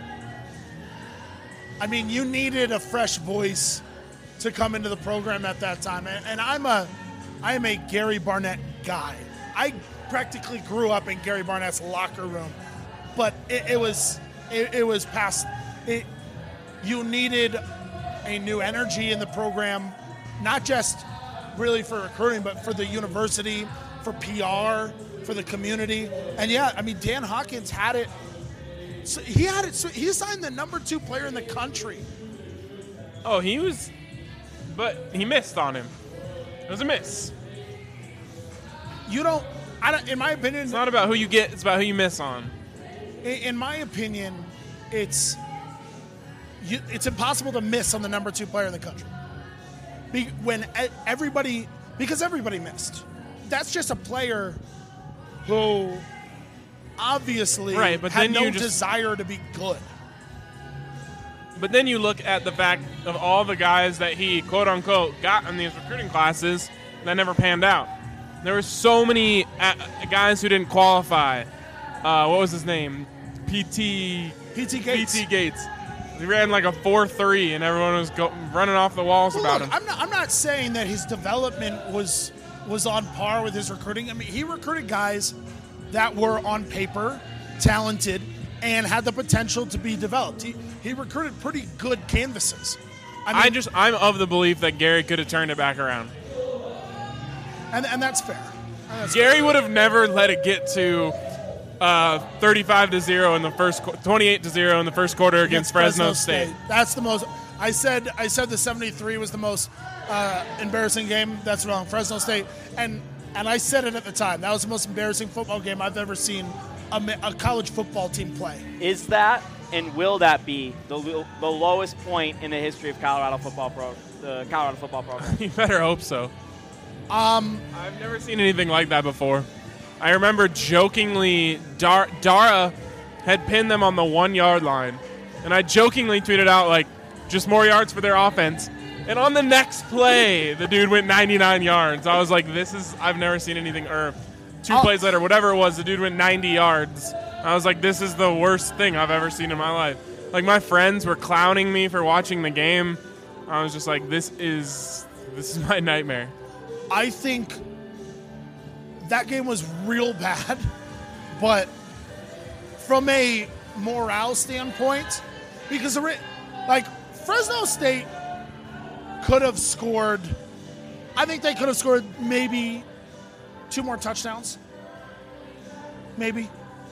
I mean, you needed a fresh voice to come into the program at that time. And, and I'm a, I am a Gary Barnett guy. I practically grew up in Gary Barnett's locker room, but it, it was it, it was past. It, you needed a new energy in the program, not just really for recruiting, but for the university, for P R, for the community. And yeah, I mean, Dan Hawkins had it. So he had it. So he signed the number two player in the country. Oh, he was, but he missed on him. It was a miss. You don't. I don't. In my opinion, it's not about who you get. It's about who you miss on. In, in my opinion, it's you, it's impossible to miss on the number two player in the country. Be, when everybody, because everybody missed. That's just a player who obviously right, but had then no you just, desire to be good. But then you look at the fact of all the guys that he, quote unquote, got in these recruiting classes that never panned out. There were so many uh, guys who didn't qualify. Uh, what was his name? P T P T Gates. P T Gates. He ran like a four three, and everyone was go- running off the walls well, about look, him. I'm not, I'm not saying that his development was was on par with his recruiting. I mean, he recruited guys that were on paper talented and had the potential to be developed. He he recruited pretty good canvases. I mean, I just I'm of the belief that Gary could have turned it back around. And, and that's fair. And that's Gary fair. would have never let it get to uh, thirty-five to zero in the first, twenty-eight to zero in the first quarter against, against Fresno, Fresno State. State. That's the most. I said I said the seventy-three was the most uh, embarrassing game. That's wrong. Fresno State, and and I said it at the time. That was the most embarrassing football game I've ever seen a, a college football team play. Is that and will that be the the lowest point in the history of Colorado football pro the Colorado football program? You better hope so. Um, I've never seen anything like that before. I remember jokingly, Dar- Dara had pinned them on the one-yard line, and I jokingly tweeted out, like, just more yards for their offense. And on the next play, the dude went ninety-nine yards. I was like, this is – I've never seen anything earth. Two oh. plays later, whatever it was, the dude went ninety yards. I was like, this is the worst thing I've ever seen in my life. Like, my friends were clowning me for watching the game. I was just like, this is this is my nightmare. I think that game was real bad, but from a morale standpoint, because like Fresno State could have scored, I think they could have scored maybe two more touchdowns, maybe.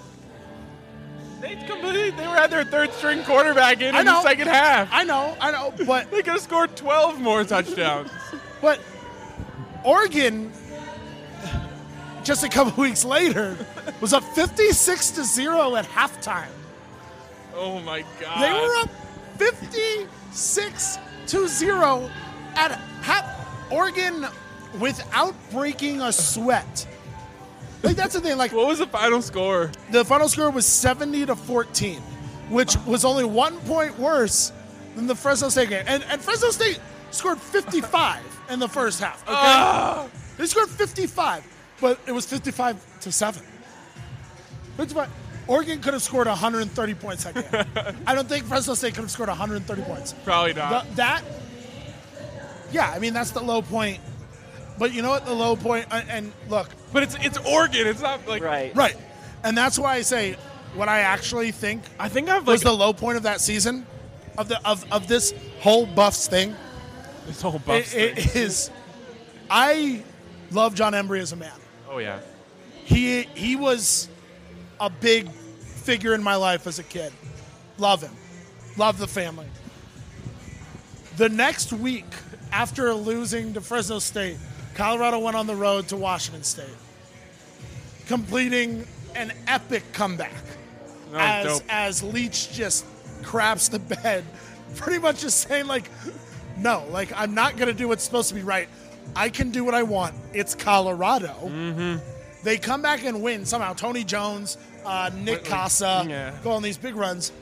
They completely, they were at their third string quarterback in, in the second half. I know, I know, but they could have scored twelve more touchdowns. But Oregon, just a couple weeks later, was up fifty-six to zero at halftime. Oh my God! They were up fifty-six to zero at half. Oregon, without breaking a sweat. Like that's the thing. Like, what was the final score? The final score was seventy to fourteen, which was only one point worse than the Fresno State game. And, and Fresno State scored fifty-five in the first half. Okay, uh. they scored fifty-five, but it was fifty-five to seven. fifty-five. Oregon could have scored one hundred thirty points that game. I don't think Fresno State could have scored one hundred thirty points. Probably not. The, that, yeah, I mean that's the low point. But you know what? The low point, and, and look. But it's it's Oregon. It's not like right, right, and that's why I say what I actually think. I think I've was like, the low point of that season, of the of, of this whole Buffs thing. This whole Buffs it, thing it is. I love John Embry as a man. Oh yeah, he he was a big figure in my life as a kid. Love him, love the family. The next week after losing to Fresno State, Colorado went on the road to Washington State, completing an epic comeback as, as Leach just craps the bed, pretty much just saying, like, no, like, I'm not going to do what's supposed to be right. I can do what I want. It's Colorado. Mm-hmm. They come back and win somehow. Tony Jones, uh, Nick Casa yeah. go on these big runs.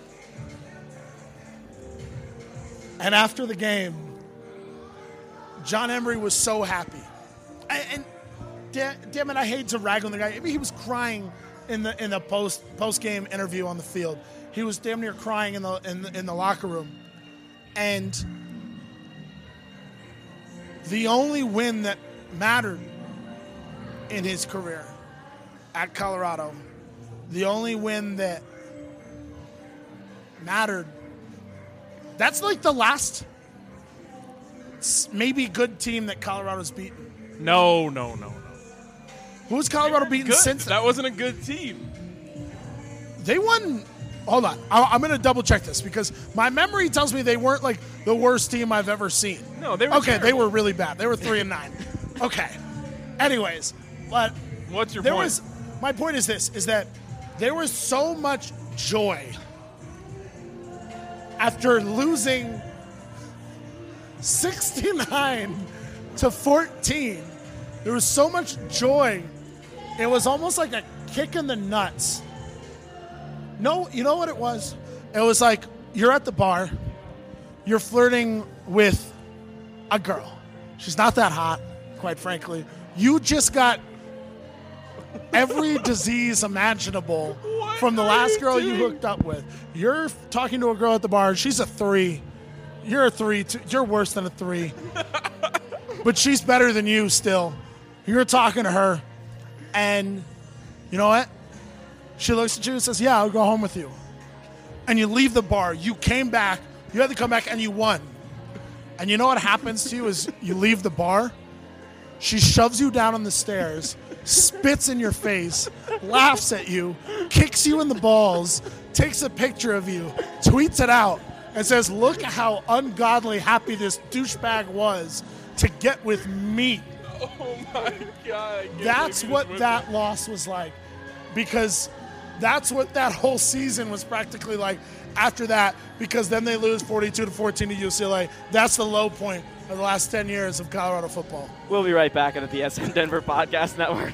And after the game, John Emery was so happy. And, and da- damn it, I hate to rag on the guy. I mean, he was crying in the in the post post game interview on the field. He was damn near crying in the in the, in the locker room. And the only win that mattered in his career at Colorado, the only win that mattered, that's like the last maybe good team that Colorado's beaten. No, no, no, no. Who's Colorado beaten good. since? That wasn't a good team. They won. Hold on. I, I'm going to double check this because my memory tells me they weren't like the worst team I've ever seen. No, they were Okay, terrible. they were really bad. They were three and nine. Okay. Anyways, but what's your there point? Was, my point is this, is that there was so much joy after losing sixty-nine to fourteen. There was so much joy. It was almost like a kick in the nuts. No, you know what it was? It was like you're at the bar, you're flirting with a girl. She's not that hot, quite frankly. You just got every disease imaginable what from the last girl doing? you hooked up with. You're talking to a girl at the bar. She's a three. You're a three. Too. You're worse than a three. But she's better than you still. You're talking to her, and you know what? She looks at you and says, yeah, I'll go home with you. And you leave the bar. You came back. You had to come back, and you won. And you know what happens to you is you leave the bar. She shoves you down on the stairs, spits in your face, laughs at you, kicks you in the balls, takes a picture of you, tweets it out, and says, look how ungodly happy this douchebag was to get with me. Oh, my God. That's what that loss was like. Because that's what that whole season was practically like after that, because then they lose forty-two to fourteen to U C L A. That's the low point of the last ten years of Colorado football. We'll be right back on the B S N Denver Podcast Network.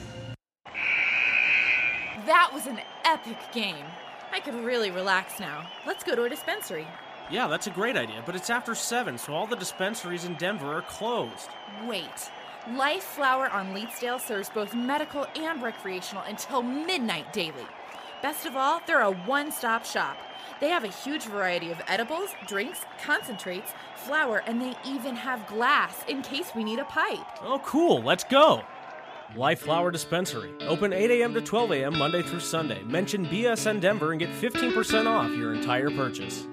That was an epic game. I could really relax now. Let's go to a dispensary. Yeah, that's a great idea, but it's after seven, so all the dispensaries in Denver are closed. Wait. Life Flower on Leetsdale serves both medical and recreational until midnight daily. Best of all, they're a one-stop shop. They have a huge variety of edibles, drinks, concentrates, flower, and they even have glass in case we need a pipe. Oh, cool. Let's go. Life Flower Dispensary. Open eight a.m. to twelve a.m. Monday through Sunday. Mention B S N Denver and get fifteen percent off your entire purchase.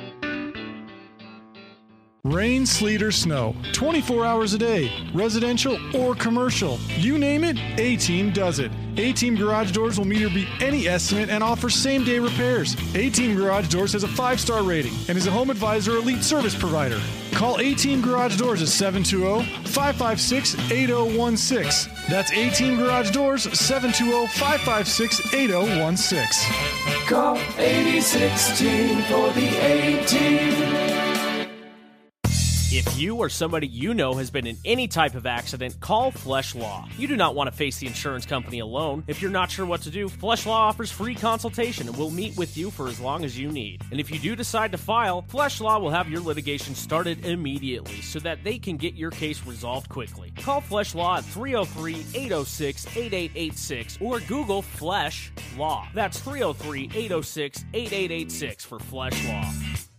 Rain, sleet, or snow, twenty-four hours a day, residential or commercial. You name it, A-Team does it. A-Team Garage Doors will meet or beat any estimate and offers same-day repairs. A-Team Garage Doors has a five-star rating and is a Home Advisor Elite service provider. Call A-Team Garage Doors at seven two zero, five five six, eight zero one six. That's A-Team Garage Doors, seven two zero, five five six, eight zero one six. Call eighty sixteen for the A-Team. If you or somebody you know has been in any type of accident, call Flesh Law. You do not want to face the insurance company alone. If you're not sure what to do, Flesh Law offers free consultation and will meet with you for as long as you need. And if you do decide to file, Flesh Law will have your litigation started immediately so that they can get your case resolved quickly. Call Flesh Law at three oh three, eight oh six, eight eight eight six or Google Flesh Law. That's three oh three, eight oh six, eight eight eight six for Flesh Law.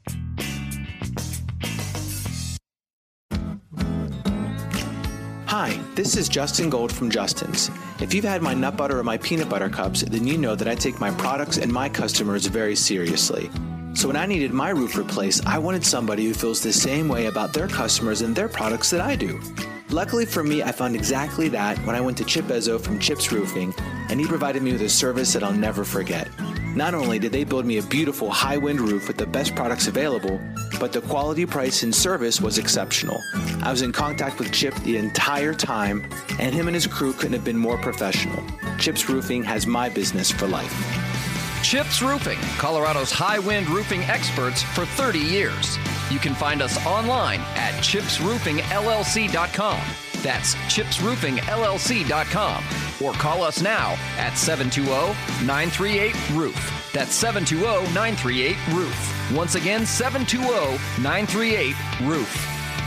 Hi, this is Justin Gold from Justin's. If you've had my nut butter or my peanut butter cups, then you know that I take my products and my customers very seriously. So when I needed my roof replaced, I wanted somebody who feels the same way about their customers and their products that I do. Luckily for me, I found exactly that when I went to Chip Ezzo from Chip's Roofing, and he provided me with a service that I'll never forget. Not only did they build me a beautiful high-wind roof with the best products available, but the quality, price, and service was exceptional. I was in contact with Chip the entire time, and him and his crew couldn't have been more professional. Chip's Roofing has my business for life. Chips Roofing, Colorado's high-wind roofing experts for thirty years. You can find us online at chips roofing L L C dot com. That's chips roofing L L C dot com. Or call us now at seven two zero, nine three eight, roof. That's seven two zero, nine three eight, roof. Once again, seven two zero, nine three eight, roof.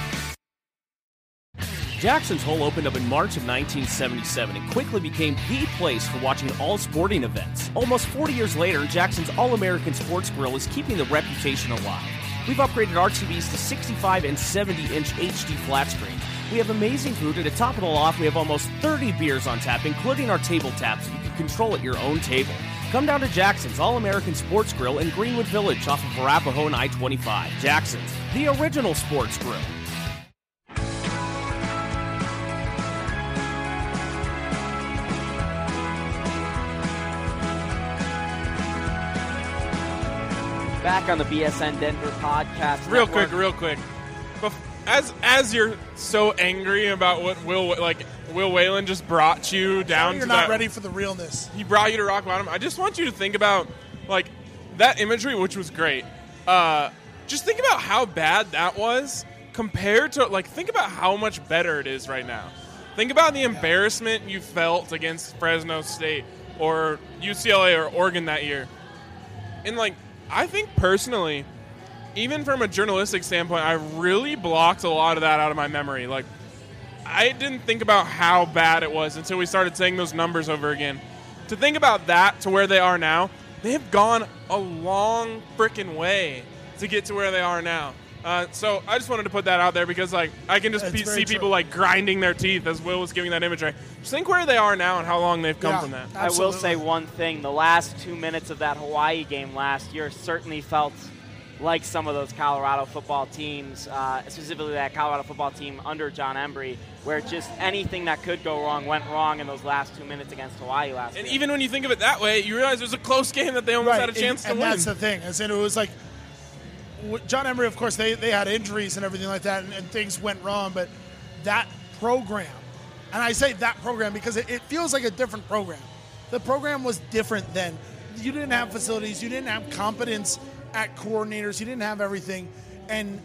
Jackson's Hole opened up in March of nineteen seventy-seven and quickly became the place for watching all sporting events. Almost forty years later, Jackson's All-American Sports Grill is keeping the reputation alive. We've upgraded our T Vs to sixty-five and seventy inch H D flat screens. We have amazing food, and to top it all off, we have almost thirty beers on tap, including our table taps, so you can control at your own table. Come down to Jackson's All-American Sports Grill in Greenwood Village off of Arapahoe and I twenty-five. Jackson's, the original sports grill. Back on the B S N Denver podcast. Real network. quick, real quick. Bef- As as you're so angry about what Will like Will Whalen just brought you down You're to not that, ready for the realness. he brought you to rock bottom. I just want you to think about like that imagery, which was great. Uh, just think about how bad that was compared to like think about how much better it is right now. Think about the embarrassment you felt against Fresno State or U C L A or Oregon that year. And like I think personally, even from a journalistic standpoint, I really blocked a lot of that out of my memory. Like, I didn't think about how bad it was until we started saying those numbers over again. To think about that to where they are now, they have gone a long freaking way to get to where they are now. Uh, so I just wanted to put that out there because, like, I can just pe- see people, like, grinding their teeth as Will was giving that imagery. Just think where they are now and how long they've come Yeah, from that. I will say one thing. The last two minutes of that Hawaii game last year certainly felt like some of those Colorado football teams, uh, specifically that Colorado football team under John Embry, where just anything that could go wrong went wrong in those last two minutes against Hawaii last And year. even when you think of it that way, you realize it was a close game that they almost Right, had a chance and, to and win. that's the thing. Is that it was like w- John Emery, of course, they, they had injuries and everything like that, and, and things went wrong. But that program, and I say that program because it, it feels like a different program. The program was different then. You didn't have facilities. You didn't have competence at coordinators. You didn't have everything. And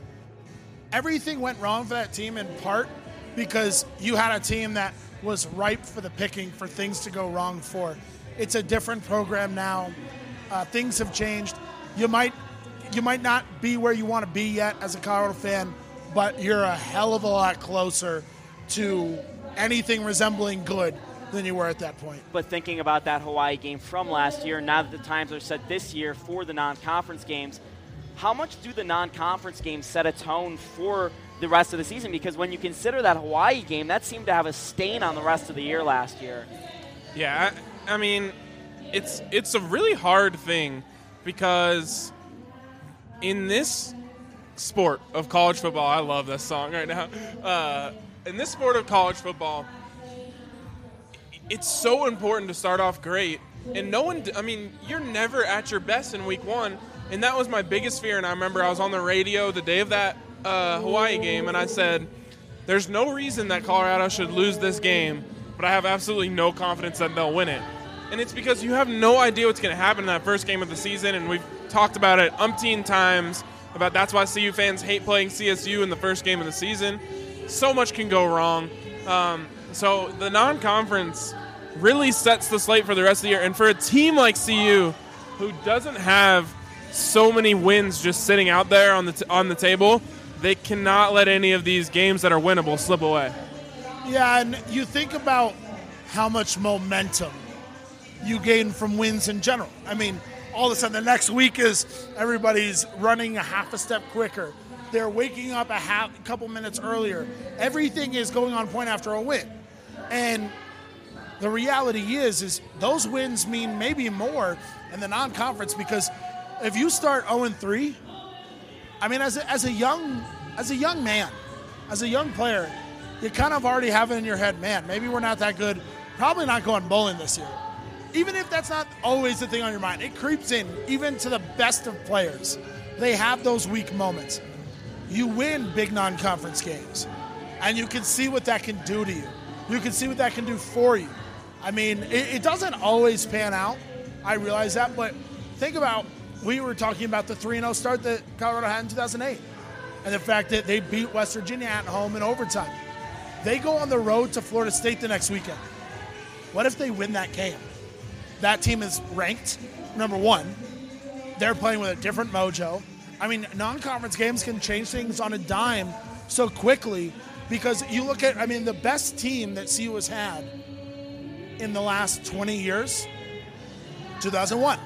everything went wrong for that team in part because you had a team that was ripe for the picking for things to go wrong for. It's a different program now. Uh, things have changed. You might you might not be where you want to be yet as a Colorado fan, but you're a hell of a lot closer to anything resembling good than you were at that point. But thinking about that Hawaii game from last year, now that the times are set this year for the non-conference games, how much do the non-conference games set a tone for the rest of the season? Because when you consider that Hawaii game, that seemed to have a stain on the rest of the year last year. Yeah, I, I mean, it's it's a really hard thing because in this sport of college football, I love this song right now. Uh, in this sport of college football, it's so important to start off great. And no one, I mean, you're never at your best in week one. And that was my biggest fear. And I remember I was on the radio the day of that uh, Hawaii game, and I said, there's no reason that Colorado should lose this game, but I have absolutely no confidence that they'll win it. And it's because you have no idea what's going to happen in that first game of the season. And we've talked about it umpteen times about that's why C U fans hate playing C S U in the first game of the season. So much can go wrong. Um, so the non-conference really sets the slate for the rest of the year. And for a team like C U, who doesn't have so many wins just sitting out there on the t- on the table, they cannot let any of these games that are winnable slip away. Yeah, and you think about how much momentum you gain from wins in general. I mean, all of a sudden the next week is everybody's running a half a step quicker. They're waking up a half, a couple minutes earlier. Everything is going on point after a win. And the reality is, is those wins mean maybe more in the non-conference because if you start oh and three, I mean, as a, as a young as a young man, as a young player, you kind of already have it in your head, man, maybe we're not that good. Probably not going bowling this year. Even if that's not always the thing on your mind, it creeps in, even to the best of players. They have those weak moments. You win big non-conference games, and you can see what that can do to you. You can see what that can do for you. I mean, it, it doesn't always pan out. I realize that, but think about, we were talking about the three and oh start that Colorado had in two thousand eight and the fact that they beat West Virginia at home in overtime. They go on the road to Florida State the next weekend. What if they win that game? That team is ranked number one. They're playing with a different mojo. I mean, non-conference games can change things on a dime so quickly because you look at, I mean, the best team that C U has had in the last twenty years, two thousand one.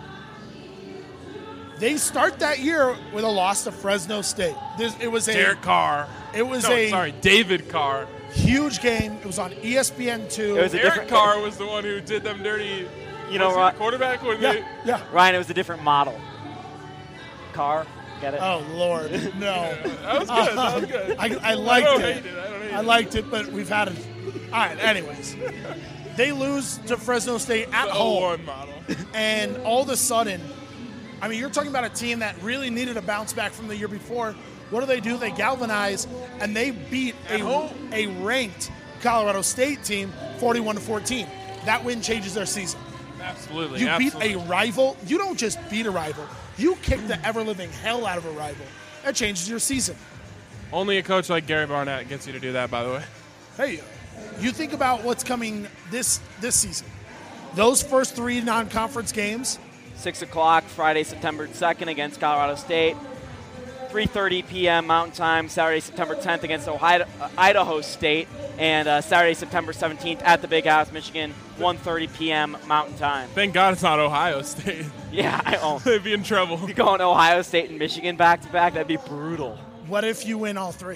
They start that year with a loss to Fresno State. This, it was a Derek Carr. It was no, a sorry, David Carr. Huge game. It was on E S P N two. It was a Derek different Carr was the one who did them dirty. You know, was he Ryan, the quarterback when yeah, they. Yeah. Ryan, it was a different model. Carr, get it? Oh Lord, no. Yeah, that was good. That was good. I, I liked I don't it. Hate it. I, don't hate I liked it, but we've had it. All right. Anyways, they lose to Fresno State at the home, oh one model. and all of a sudden, I mean, you're talking about a team that really needed a bounce back from the year before. What do they do? They galvanize, and they beat a, a ranked Colorado State team forty-one to fourteen. That win changes their season. Absolutely. You absolutely. beat a rival. You don't just beat a rival. You kick the ever-living hell out of a rival. That changes your season. Only a coach like Gary Barnett gets you to do that, by the way. Hey, you think about what's coming this this season. Those first three non-conference games. six o'clock, Friday, September second against Colorado State. three thirty p.m. Mountain Time, Saturday, September tenth against Ohio, uh, Idaho State. And uh, Saturday, September seventeenth at the Big House, Michigan, one thirty p.m. Mountain Time. Thank God it's not Ohio State. Yeah, I oh. They'd be in trouble. If you're going to Ohio State and Michigan back-to-back, that'd be brutal. What if you win all three?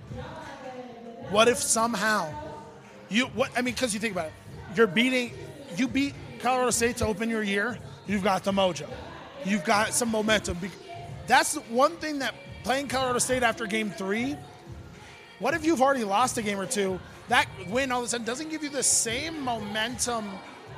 What if somehow you what I mean, because you think about it, you're beating you beat Colorado State to open your year. You've got the mojo, you've got some momentum. That's one thing that playing Colorado State after game three. What if you've already lost a game or two? That win all of a sudden doesn't give you the same momentum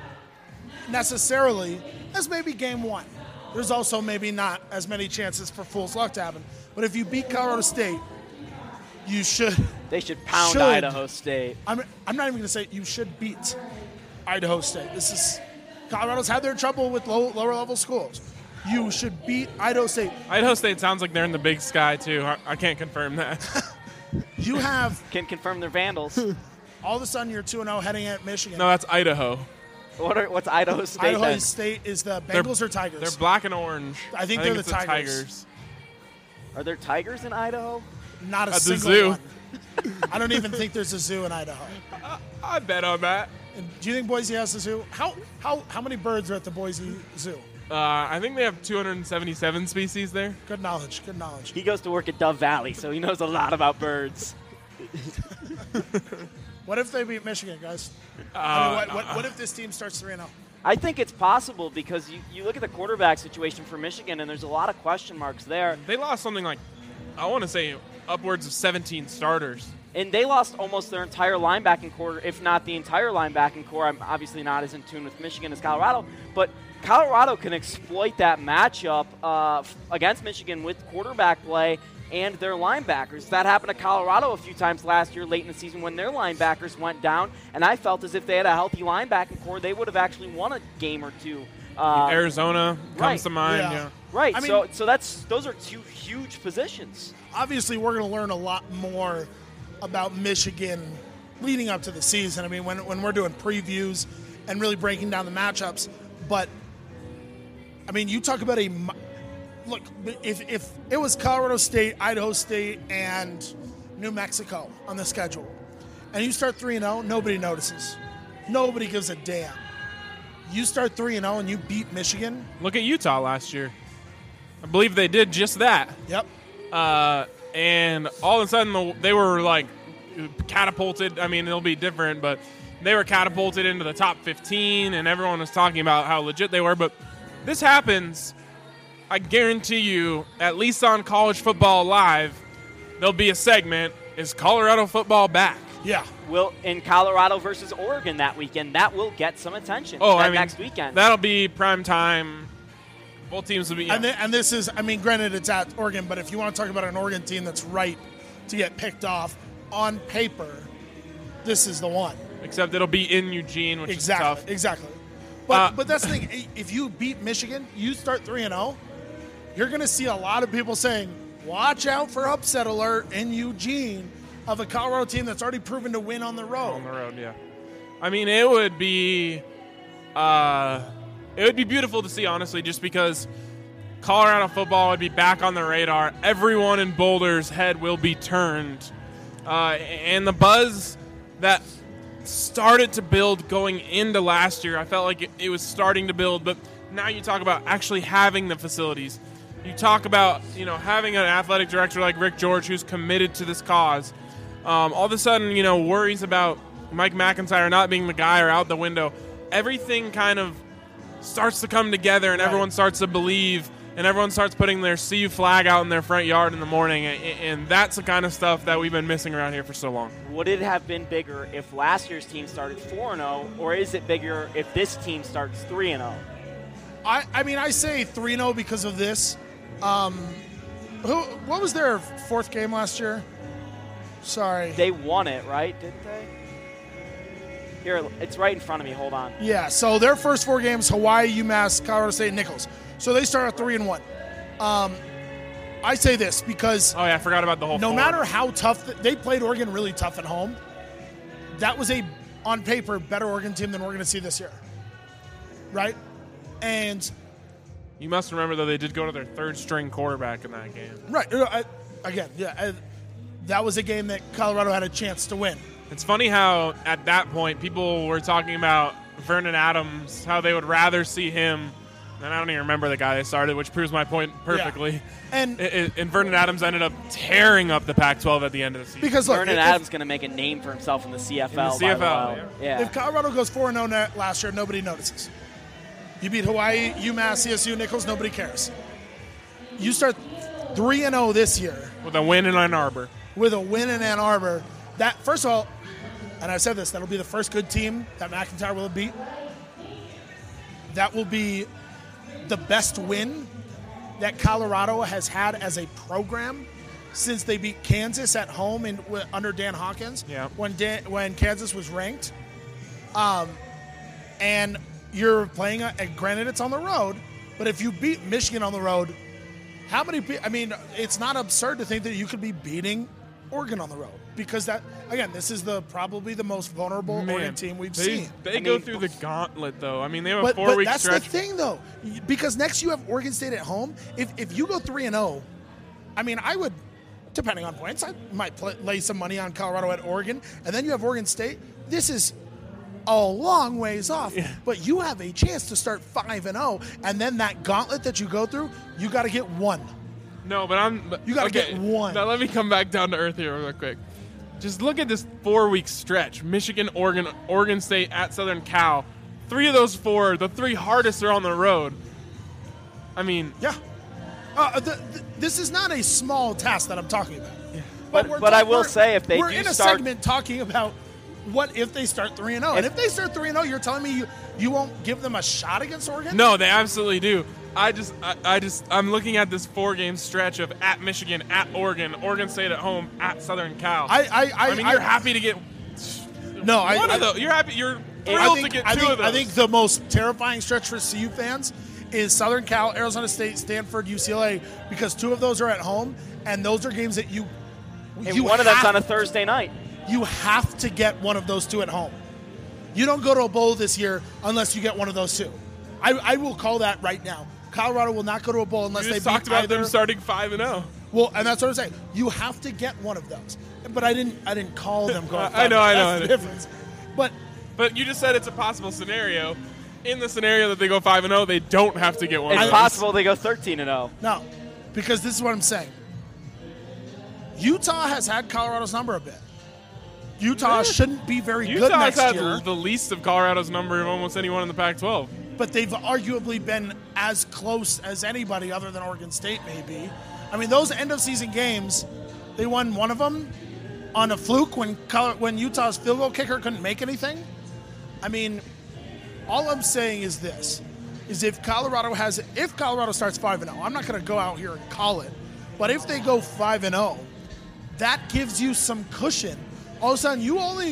necessarily as maybe game one. There's also maybe not as many chances for fool's luck to happen. But if you beat Colorado State, you should. They should pound should, Idaho State. I'm, I'm not even going to say you should beat Idaho State. This is Colorado's had their trouble with low, lower level schools. You should beat Idaho State. Idaho State sounds like they're in the Big Sky too. I, I can't confirm that. You have can confirm they're Vandals. All of a sudden, you're two and oh heading at Michigan. No, that's Idaho. What are, what's Idaho State? Idaho then? State is the Bengals they're, or Tigers? They're black and orange. I think I they're think the it's Tigers. Tigers. Are there tigers in Idaho? Not a At single the zoo. one. I don't even think there's a zoo in Idaho. I, I bet on that. And do you think Boise has a zoo? How how how many birds are at the Boise Zoo? Uh, I think they have two hundred seventy-seven species there. Good knowledge. Good knowledge. He goes to work at Dove Valley, so he knows a lot about birds. What if they beat Michigan, guys? Uh, I mean, what, what, what if this team starts three and oh? I think it's possible because you, you look at the quarterback situation for Michigan, and there's a lot of question marks there. They lost something like, I want to say, upwards of seventeen starters. And they lost almost their entire linebacking core, if not the entire linebacking core. I'm obviously not as in tune with Michigan as Colorado, but Colorado can exploit that matchup uh, against Michigan with quarterback play and their linebackers. That happened to Colorado a few times last year late in the season when their linebackers went down, and I felt as if they had a healthy linebacking core, they would have actually won a game or two. Uh, Arizona comes right. to mind. Yeah. Yeah. Right, I mean, so so that's those are two huge positions. Obviously, we're going to learn a lot more about Michigan leading up to the season. I mean, when when we're doing previews and really breaking down the matchups, but I mean, you talk about a look. If if it was Colorado State, Idaho State, and New Mexico on the schedule, and you start three and zero, nobody notices. Nobody gives a damn. You start three and zero, and you beat Michigan. Look at Utah last year. I believe they did just that. Yep. Uh, and all of a sudden, they were like catapulted. I mean, it'll be different, but they were catapulted into the top fifteen, and everyone was talking about how legit they were. But this happens, I guarantee you, at least on College Football Live, there'll be a segment, is Colorado football back? Yeah. Will in Colorado versus Oregon that weekend, that will get some attention. Oh, that I mean, next weekend. That'll be prime time. Both teams will be. Yeah. And, th- and this is, I mean, granted it's at Oregon, but if you want to talk about an Oregon team that's ripe to get picked off on paper, this is the one. Except it'll be in Eugene, which exactly, is tough. Exactly. But Uh, but that's the thing. If you beat Michigan, you start three and zero. You're going to see a lot of people saying, "Watch out for upset alert in Eugene of a Colorado team that's already proven to win on the road." On the road, yeah. I mean, it would be, uh, it would be beautiful to see, honestly, just because Colorado football would be back on the radar. Everyone in Boulder's head will be turned, uh, and the buzz that started to build going into last year, I felt like it, it was starting to build. But now you talk about actually having the facilities. You talk about, you know, having an athletic director like Rick George who's committed to this cause. Um, all of a sudden, you know, worries about Mike McIntyre not being the guy are out the window. Everything kind of starts to come together, and right. everyone starts to believe, and everyone starts putting their C U flag out in their front yard in the morning, and, and that's the kind of stuff that we've been missing around here for so long. Would it have been bigger if last year's team started four and oh, or is it bigger if this team starts three and oh? I, I mean, I say three and oh because of this. Um, who? What was their fourth game last year? Sorry. They won it, right? Didn't they? Here, it's right in front of me. Hold on. Yeah, so their first four games, Hawaii, UMass, Colorado State, Nichols. So they start at three and one. Um, I say this because oh yeah, I forgot about the whole. No four. matter how tough th- they played Oregon, really tough at home. That was a, on paper, better Oregon team than we're going to see this year, right? And you must remember though they did go to their third string quarterback in that game. Right. I, again, yeah, I, that was a game that Colorado had a chance to win. It's funny how at that point people were talking about Vernon Adams, how they would rather see him. And I don't even remember the guy they started, which proves my point perfectly. Yeah. And, it, and Vernon Adams ended up tearing up the Pac twelve at the end of the season. Because look, Vernon if, Adams is going to make a name for himself in the C F L. In the C F L, yeah. yeah. If Colorado goes four and oh last year, nobody notices. You beat Hawaii, UMass, C S U, Nichols, nobody cares. You start three and oh this year. With a win in Ann Arbor. With a win in Ann Arbor. That, first of all, and I said this, that'll be the first good team that McIntyre will beat. That will be the best win that Colorado has had as a program since they beat Kansas at home in, under Dan Hawkins. Yeah. When Dan, when Kansas was ranked, um, and you're playing. A, and granted, it's on the road, but if you beat Michigan on the road, how many? I mean, it's not absurd to think that you could be beating Oregon on the road, because that, again, this is the probably the most vulnerable Man, Oregon team we've they, seen. They I go mean, through the gauntlet, though. I mean, they have a but, four-week but that's stretch. the thing, though, because next you have Oregon State at home. If if you go three and zero, I mean, I would, depending on points, I might play, lay some money on Colorado at Oregon, and then you have Oregon State. This is a long ways off, yeah. but you have a chance to start five and zero, and then that gauntlet that you go through, you got to get one. No, but I'm. But, you got to okay, get one. Now let me come back down to earth here real quick. Just look at this four-week stretch. Michigan, Oregon, Oregon State, at Southern Cal. Three of those four, the three hardest are on the road. I mean... Yeah. Uh, the, the, this is not a small task that I'm talking about. Yeah. But, but, but talk, I will say if they we're do in a start... segment talking about what if they start three and oh. And if they start three and oh, you're telling me you, you won't give them a shot against Oregon? No, they absolutely do. I just, I, I just, I'm looking at this four-game stretch of at Michigan, at Oregon, Oregon State at home, at Southern Cal. I, I, I, I mean, I, you're happy to get no. One I, of those. You're happy. You're thrilled I think, to get I two think, of those. I think the most terrifying stretch for C U fans is Southern Cal, Arizona State, Stanford, U C L A, because two of those are at home, and those are games that you. And you one of have, them's on a Thursday night. You have to get one of those two at home. You don't go to a bowl this year unless you get one of those two. I, I will call that right now. Colorado will not go to a bowl unless you they just beat talked about either. them starting five and zero. Well, and that's what I'm saying. You have to get one of those. But I didn't. I didn't call them going. I know. I know. That's I know. the difference. But but you just said it's a possible scenario. In the scenario that they go five and zero, they don't have to get one. It's of possible those. they go thirteen and zero. No, because this is what I'm saying. Utah has had Colorado's number a bit. Utah yeah. shouldn't be very Utah good next has year. had the least of Colorado's number of almost anyone in the Pac twelve. But they've arguably been as close as anybody other than Oregon State, maybe. I mean, those end-of-season games, they won one of them on a fluke when when Utah's field goal kicker couldn't make anything. I mean, all I'm saying is this, is if Colorado has, if Colorado starts five and oh, I'm not going to go out here and call it, but if they go five and oh, that gives you some cushion. All of a sudden, you only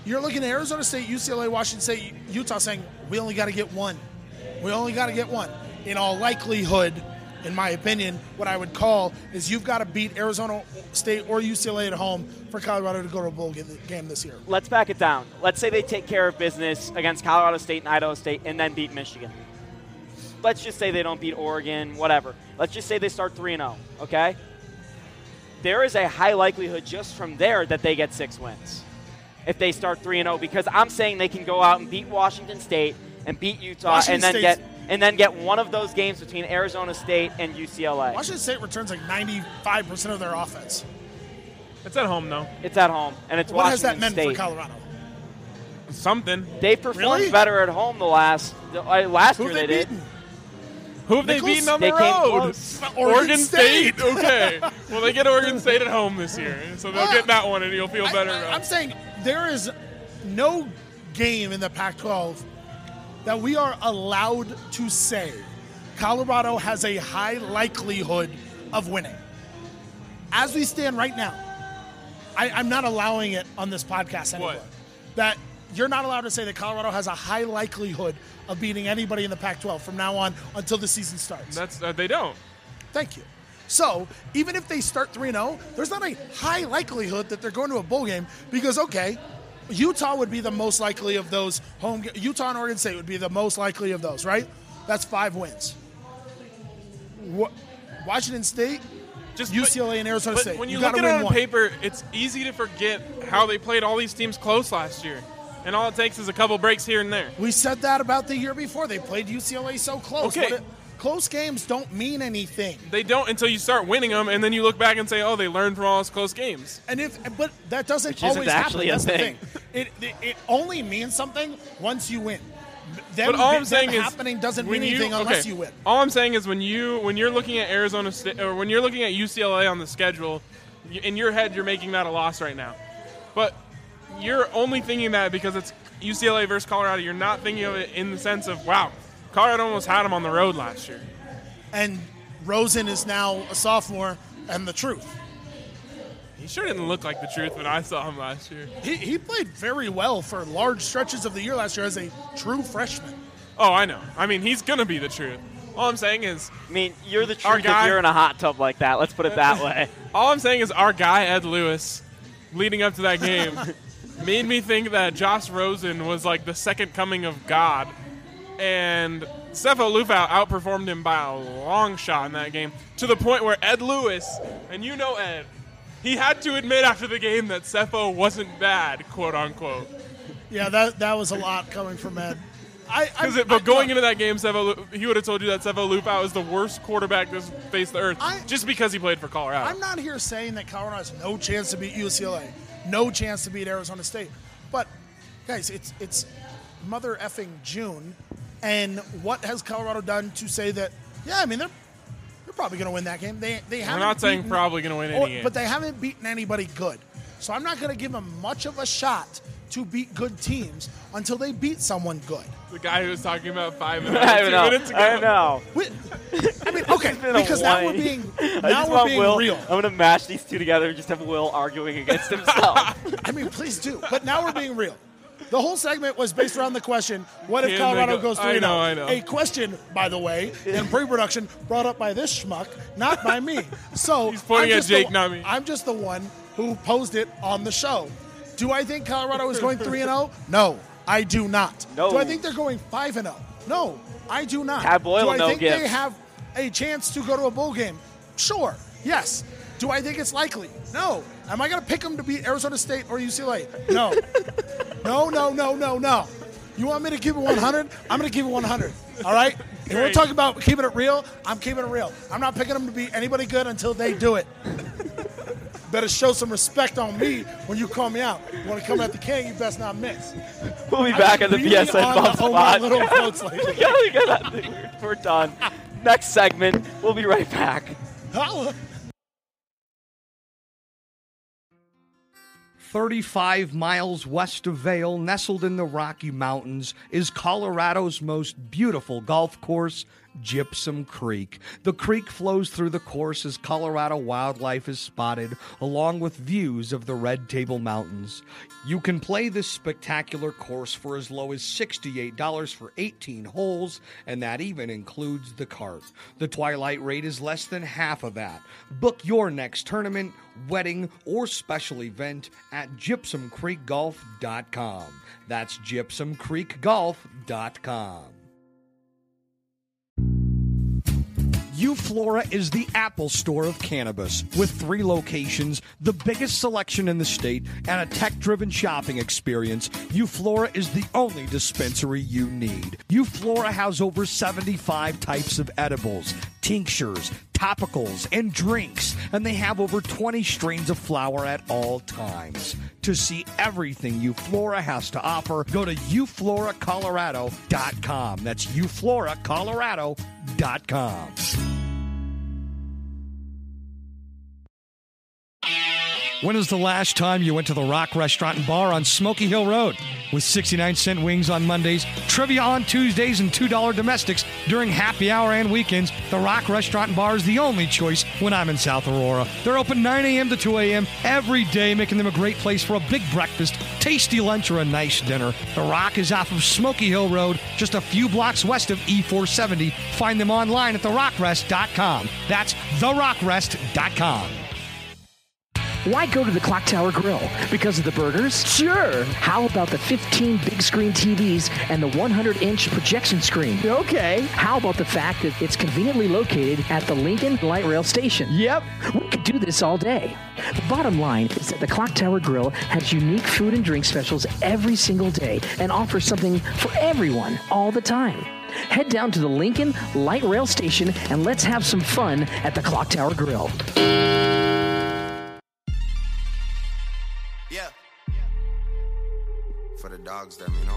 You're looking at Arizona State, U C L A, Washington State, Utah saying, we only got to get one. We only got to get one. In all likelihood, in my opinion, what I would call is you've got to beat Arizona State or U C L A at home for Colorado to go to a bowl game this year. Let's back it down. Let's say they take care of business against Colorado State and Idaho State and then beat Michigan. Let's just say they don't beat Oregon, whatever. Let's just say they start three and oh, okay? There is a high likelihood just from there that they get six wins if they start three and oh, because I'm saying they can go out and beat Washington State and beat Utah Washington and then State's- get and then get one of those games between Arizona State and U C L A. Washington State returns like ninety-five percent of their offense. It's at home, though. It's at home, and it's What Washington has that meant State. for Colorado? Something. They've performed Really? better at home the last uh, last Who year have they, they did. beaten? Who have they Nichols? beaten on They the came road? close. Oregon Oregon State. State. Okay. Well, they get Oregon State at home this year, so they'll Ah. get that one, and you'll feel I- better. I, about I'm it. saying there is no game in the Pac twelve that we are allowed to say Colorado has a high likelihood of winning. As we stand right now, I, I'm not allowing it on this podcast anymore. What? That you're not allowed to say that Colorado has a high likelihood of beating anybody in the Pac twelve from now on until the season starts. That's uh, they don't. Thank you. So, even if they start three and oh, there's not a high likelihood that they're going to a bowl game because, okay, Utah would be the most likely of those home – Utah and Oregon State would be the most likely of those, right? That's five wins. Wa- Washington State, Just U C L A, and Arizona but State. when you, you look gotta at it win on one. paper, it's easy to forget how they played all these teams close last year, and all it takes is a couple breaks here and there. We said that about the year before. They played U C L A so close. Okay. But it- close games don't mean anything. They don't until you start winning them, and then you look back and say, "Oh, they learned from all those close games." And if, but that doesn't Which isn't always actually happen. a That's thing. the thing. It, it it only means something once you win. Them, But all I'm them saying is, happening doesn't when mean you- anything unless okay, you win. All I'm saying is when you when you're looking at Arizona State or when you're looking at U C L A on the schedule, y- in your head you're making that a loss right now. But you're only thinking that because it's U C L A versus Colorado. You're not thinking of it in the sense of, wow, Colorado almost had them on the road last year. And Rosen is now a sophomore and the truth. He sure didn't look like the truth when I saw him last year. He, he played very well for large stretches of the year last year as a true freshman. Oh, I know. I mean, he's going to be the truth. All I'm saying is, I mean, you're the Our truth guy- if you're in a hot tub like that. Let's put it that way. all I'm saying is our guy, Ed Lewis, leading up to that game, made me think that Josh Rosen was like the second coming of God. And Sefo Lufau outperformed him by a long shot in that game to the point where Ed Lewis, and you know Ed, he had to admit after the game that Sefo wasn't bad, quote unquote. Yeah, that that was a lot coming from Ed. I, I, Because it, but going into that game, Sefo, Lu- he would have told you that Sefo Lufau is the worst quarterback that's faced the earth, I- just because he played for Colorado. I'm not here saying that Colorado has no chance to beat U C L A, no chance to beat Arizona State. But, guys, it's it's mother effing June, and what has Colorado done to say that, yeah, I mean, they're they're probably going to win that game. They, they We're haven't not saying beaten- probably going to win any or- game. But they haven't beaten anybody good. So I'm not going to give them much of a shot to beat good teams until they beat someone good. The guy who was talking about five and I two know. minutes ago. I know. We- I mean, okay, been a because now we're whine. being I now just we're want being Will, real. I'm going to mash these two together and just have Will arguing against himself. I mean, please do. But now we're being real. The whole segment was based around the question, what if Can Colorado they go- goes I three and know, oh? I know. A question, by the way, in pre-production brought up by this schmuck, not by me. So He's pointing I'm at just Jake, the, not me. I'm just the one who posed it on the show. Do I think Colorado is going three and oh? No, I do not. No. Do I think they're going five and oh? No, I do not. Tab Boyle, do I no think gifts. they have a chance to go to a bowl game? Sure. Yes. Do I think it's likely? No. Am I going to pick them to beat Arizona State or U C L A? No. No, no, no, no, no. You want me to keep it one hundred? I'm going to keep it one hundred. All right? If we're Great. talking about keeping it real, I'm keeping it real. I'm not picking them to beat anybody good until they do it. Better show some respect on me when you call me out. You want to come at the king, you best not miss. We'll be back on the really B S N on the Buffs Omar pod. Little quotes lately. Yeah, we got that thing. We're, we're done. Next segment, we'll be right back. Holla. thirty-five miles west of Vail, nestled in the Rocky Mountains, is Colorado's most beautiful golf course, Gypsum Creek. The creek flows through the course as Colorado wildlife is spotted, along with views of the Red Table Mountains. You can play this spectacular course for as low as sixty-eight dollars for eighteen holes, and that even includes the cart. The twilight rate is less than half of that. Book your next tournament, wedding, or special event at gypsum creek golf dot com. That's gypsum creek golf dot com. Euflora is the Apple Store of cannabis, with three locations, the biggest selection in the state, and a tech-driven shopping experience. Euflora is the only dispensary you need. Euflora has over seventy-five types of edibles, tinctures, topicals, and drinks, and they have over twenty strains of flower at all times. To see everything Euflora has to offer, go to euflora colorado dot com. That's euflora colorado dot com. When was the last time you went to the Rock Restaurant and Bar on Smoky Hill Road? With sixty-nine cent wings on Mondays, trivia on Tuesdays, and two dollar domestics during happy hour and weekends, the Rock Restaurant and Bar is the only choice when I'm in South Aurora. They're open nine a.m. to two a.m. every day, making them a great place for a big breakfast, tasty lunch, or a nice dinner. The Rock is off of Smoky Hill Road, just a few blocks west of E four seventy. Find them online at the rock rest dot com. That's the rock rest dot com. Why go to the Clock Tower Grill? Because of the burgers? Sure. How about the fifteen big screen T Vs and the one hundred inch projection screen? Okay. How about the fact that it's conveniently located at the Lincoln Light Rail Station? Yep. We could do this all day. The bottom line is that the Clock Tower Grill has unique food and drink specials every single day and offers something for everyone all the time. Head down to the Lincoln Light Rail Station and let's have some fun at the Clock Tower Grill. Yeah. For the dogs, them, you know.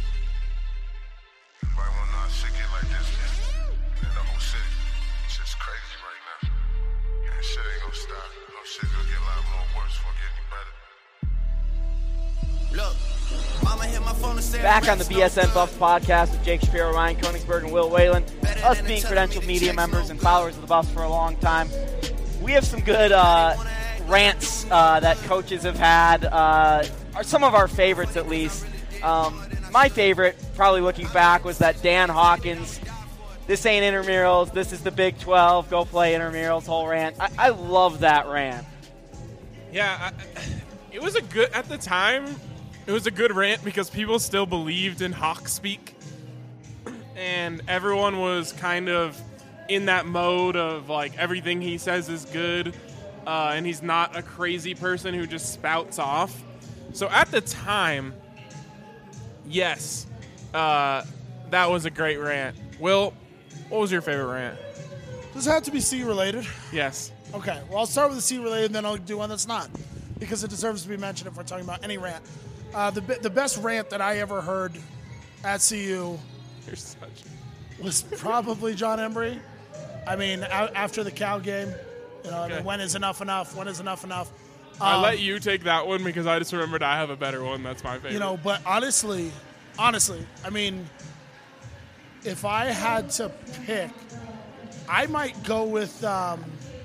Why will not shit get like this, man? In the whole city. Shit's crazy right now. And shit ain't gonna stop. No shit gonna get a lot more worse before getting better. Look, mama hit my phone and said back on the B S N Buffs podcast with Jake Shapiro, Ryan Koenigsberg, and Will Whalen. Us being credentialed media members and followers of the Buffs for a long time, we have some good uh, rants uh, that coaches have had, uh, are some of our favorites at least. Um, my favorite, probably looking back, was that Dan Hawkins, this ain't intramurals, this is the Big twelve, go play intramurals whole rant. I, I love that rant. Yeah, I, it was a good, at the time, it was a good rant because people still believed in Hawk speak. And everyone was kind of in that mode of, like, everything he says is good. Uh, and he's not a crazy person who just spouts off. So at the time, yes, uh, that was a great rant. Will, what was your favorite rant? Does it have to be C-related? Yes. Okay, well, I'll start with the C-related, and then I'll do one that's not, because it deserves to be mentioned if we're talking about any rant. Uh, the the best rant that I ever heard at C U You're such... was probably John Embry. I mean, a- after the Cal game. You know, okay. I mean, when is enough enough? When is enough enough? Um, I let you take that one because I just remembered I have a better one. That's my favorite. You know, but honestly, honestly, I mean, if I had to pick, I might go with, um,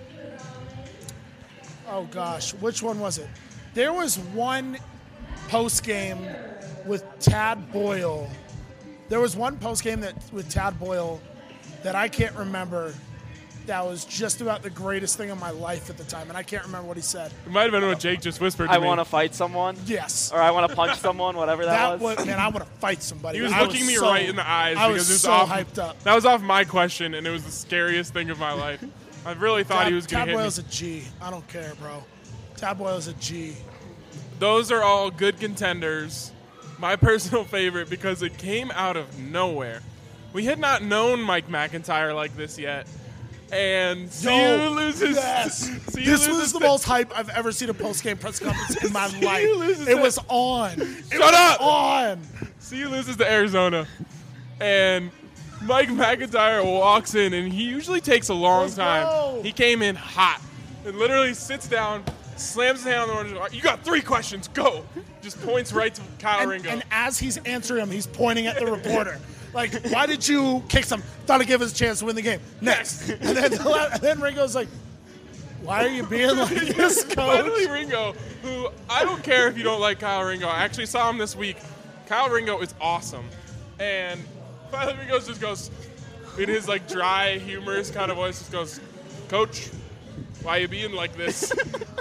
oh gosh, which one was it? There was one post game with Tad Boyle. There was one post game that with Tad Boyle that I can't remember. That was just about the greatest thing in my life at the time, and I can't remember what he said. It might have been what Jake just whispered to I me. want to fight someone? Yes. Or I want to punch someone, whatever that, that was. was. Man, I want to fight somebody. He was I looking was me so, right in the eyes I because was it was so off, hyped up. That was off my question, and it was the scariest thing of my life. I really thought Tab, he was going to hit me. Tab Boyle's a G. I don't care, bro. Tab Boyle's a G. Those are all good contenders. My personal favorite because it came out of nowhere. We had not known Mike McIntyre like this yet. And C U Yo, loses. Yes. C U this loses was the the- most hype I've ever seen a post-game press conference in my C U life. loses It the- was on. It Shut was up! on. C U loses to Arizona. And Mike McIntyre walks in, and he usually takes a long Let's time. go. He came in hot and literally sits down, slams his hand on the door. You got three questions. Go. Just points right to Kyle And, Ringo. and as he's answering him, he's pointing at the reporter. Like, why did you kick some? Thought to give us a chance to win the game. Next. And then, and then Ringo's like, why are you being like this, coach? Finally, Ringo, who I don't care if you don't like Kyle Ringo. I actually saw him this week. Kyle Ringo is awesome. And finally Ringo just goes, in his like dry, humorous kind of voice, just goes, Coach, why you being like this?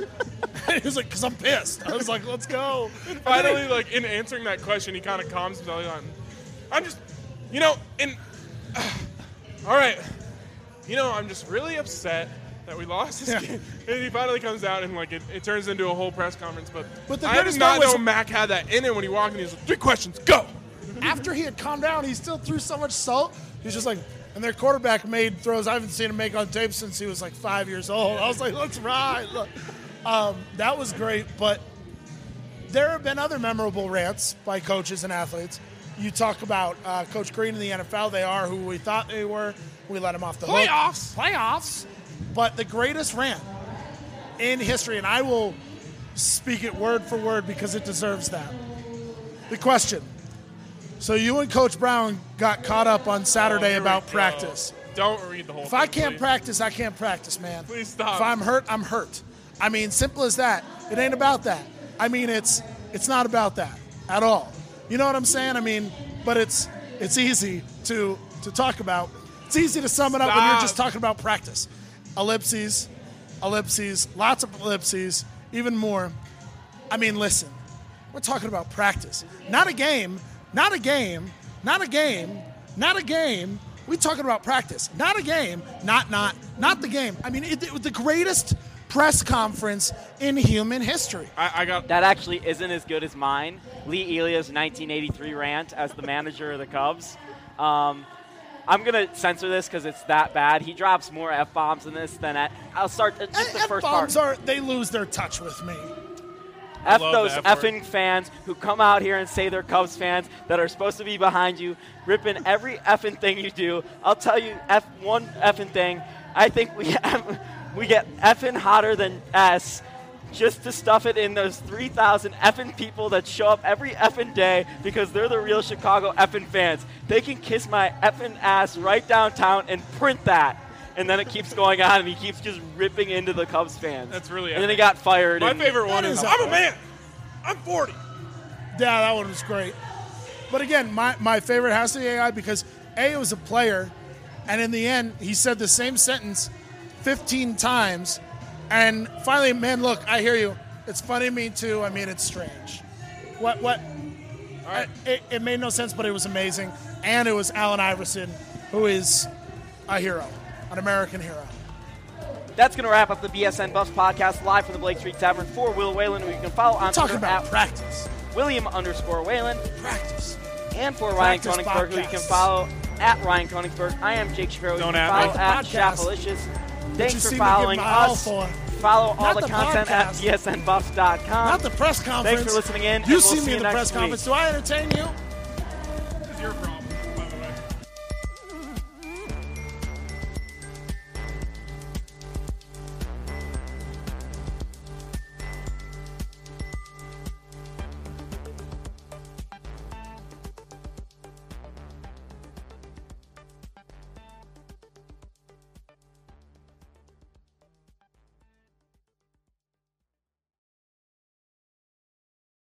He was like, because I'm pissed. I was like, let's go. And finally, like, in answering that question, he kind of calms himself down. I'm just, you know, in, uh, all right, you know, I'm just really upset that we lost this yeah. game. And he finally comes out and, like, it, it turns into a whole press conference. But, but the I did not know Mac had that in him when he walked in. He was like, three questions, go. After he had calmed down, he still threw so much salt. He's just like, and their quarterback made throws I haven't seen him make on tape since he was like five years old. I was like, let's ride. Look. Um, that was great, but there have been other memorable rants by coaches and athletes. You talk about uh, Coach Green in the N F L. They are who we thought they were. We let them off the hook. Playoffs. Playoffs. But the greatest rant in history, and I will speak it word for word because it deserves that. The question. So you and Coach Brown got caught up on Saturday oh, about practice. Don't read the whole if thing, I can't please. practice, I can't practice, man. Please stop. If I'm hurt, I'm hurt. I mean, simple as that. It ain't about that. I mean, it's it's not about that at all. You know what I'm saying? I mean, but it's it's easy to to talk about. It's easy to sum it up Stop. when you're just talking about practice. Ellipses, ellipses, lots of ellipses, even more. I mean, listen, we're talking about practice, not a game, not a game, not a game, not a game. We're talking about practice, not a game, not not not the game. I mean, it, it was the greatest press conference in human history. I, I got that actually isn't as good as mine. Lee Elia's nineteen eighty-three rant as the manager of the Cubs. Um, I'm gonna censor this because it's that bad. He drops more f bombs in this than at. I'll start uh, just the first part. F bombs are they lose their touch with me. F those effing fans who come out here and say they're Cubs fans that are supposed to be behind you, ripping every effing thing you do. I'll tell you F one effing thing. I think we have. We get effing hotter than S just to stuff it in those three thousand effing people that show up every effing day because they're the real Chicago effing fans. They can kiss my effing ass right downtown and print that. And then it keeps going on, and he keeps just ripping into the Cubs fans. That's really And then he got fired. My and favorite one is, I'm a man. I'm forty. Yeah, that one was great. But again, my, my favorite has to be A I because A was a player, and in the end, he said the same sentence fifteen times, and finally, man, look, I hear you. It's funny to me too. I mean, it's strange. What? What? All right. I, it, it made no sense, but it was amazing, and it was Allen Iverson, who is a hero, an American hero. That's going to wrap up the B S N Buffs podcast live from the Blake Street Tavern for Will Whalen, who you can follow on We're talking Twitter about at practice. William underscore Whalen. Practice. And for Practice Ryan Koenigsberg, who you can podcast. follow at Ryan Koenigsberg. I am Jake Shapiro. Don't you can at follow me. at Podcast. Shapalicious. you Thanks seem for to following give my all us. for. Follow all Not the, the content podcast. at B S N Buffs dot com. Not the press conference. Thanks for listening in. You and we'll see see me you in the next press week. conference. Do I entertain you?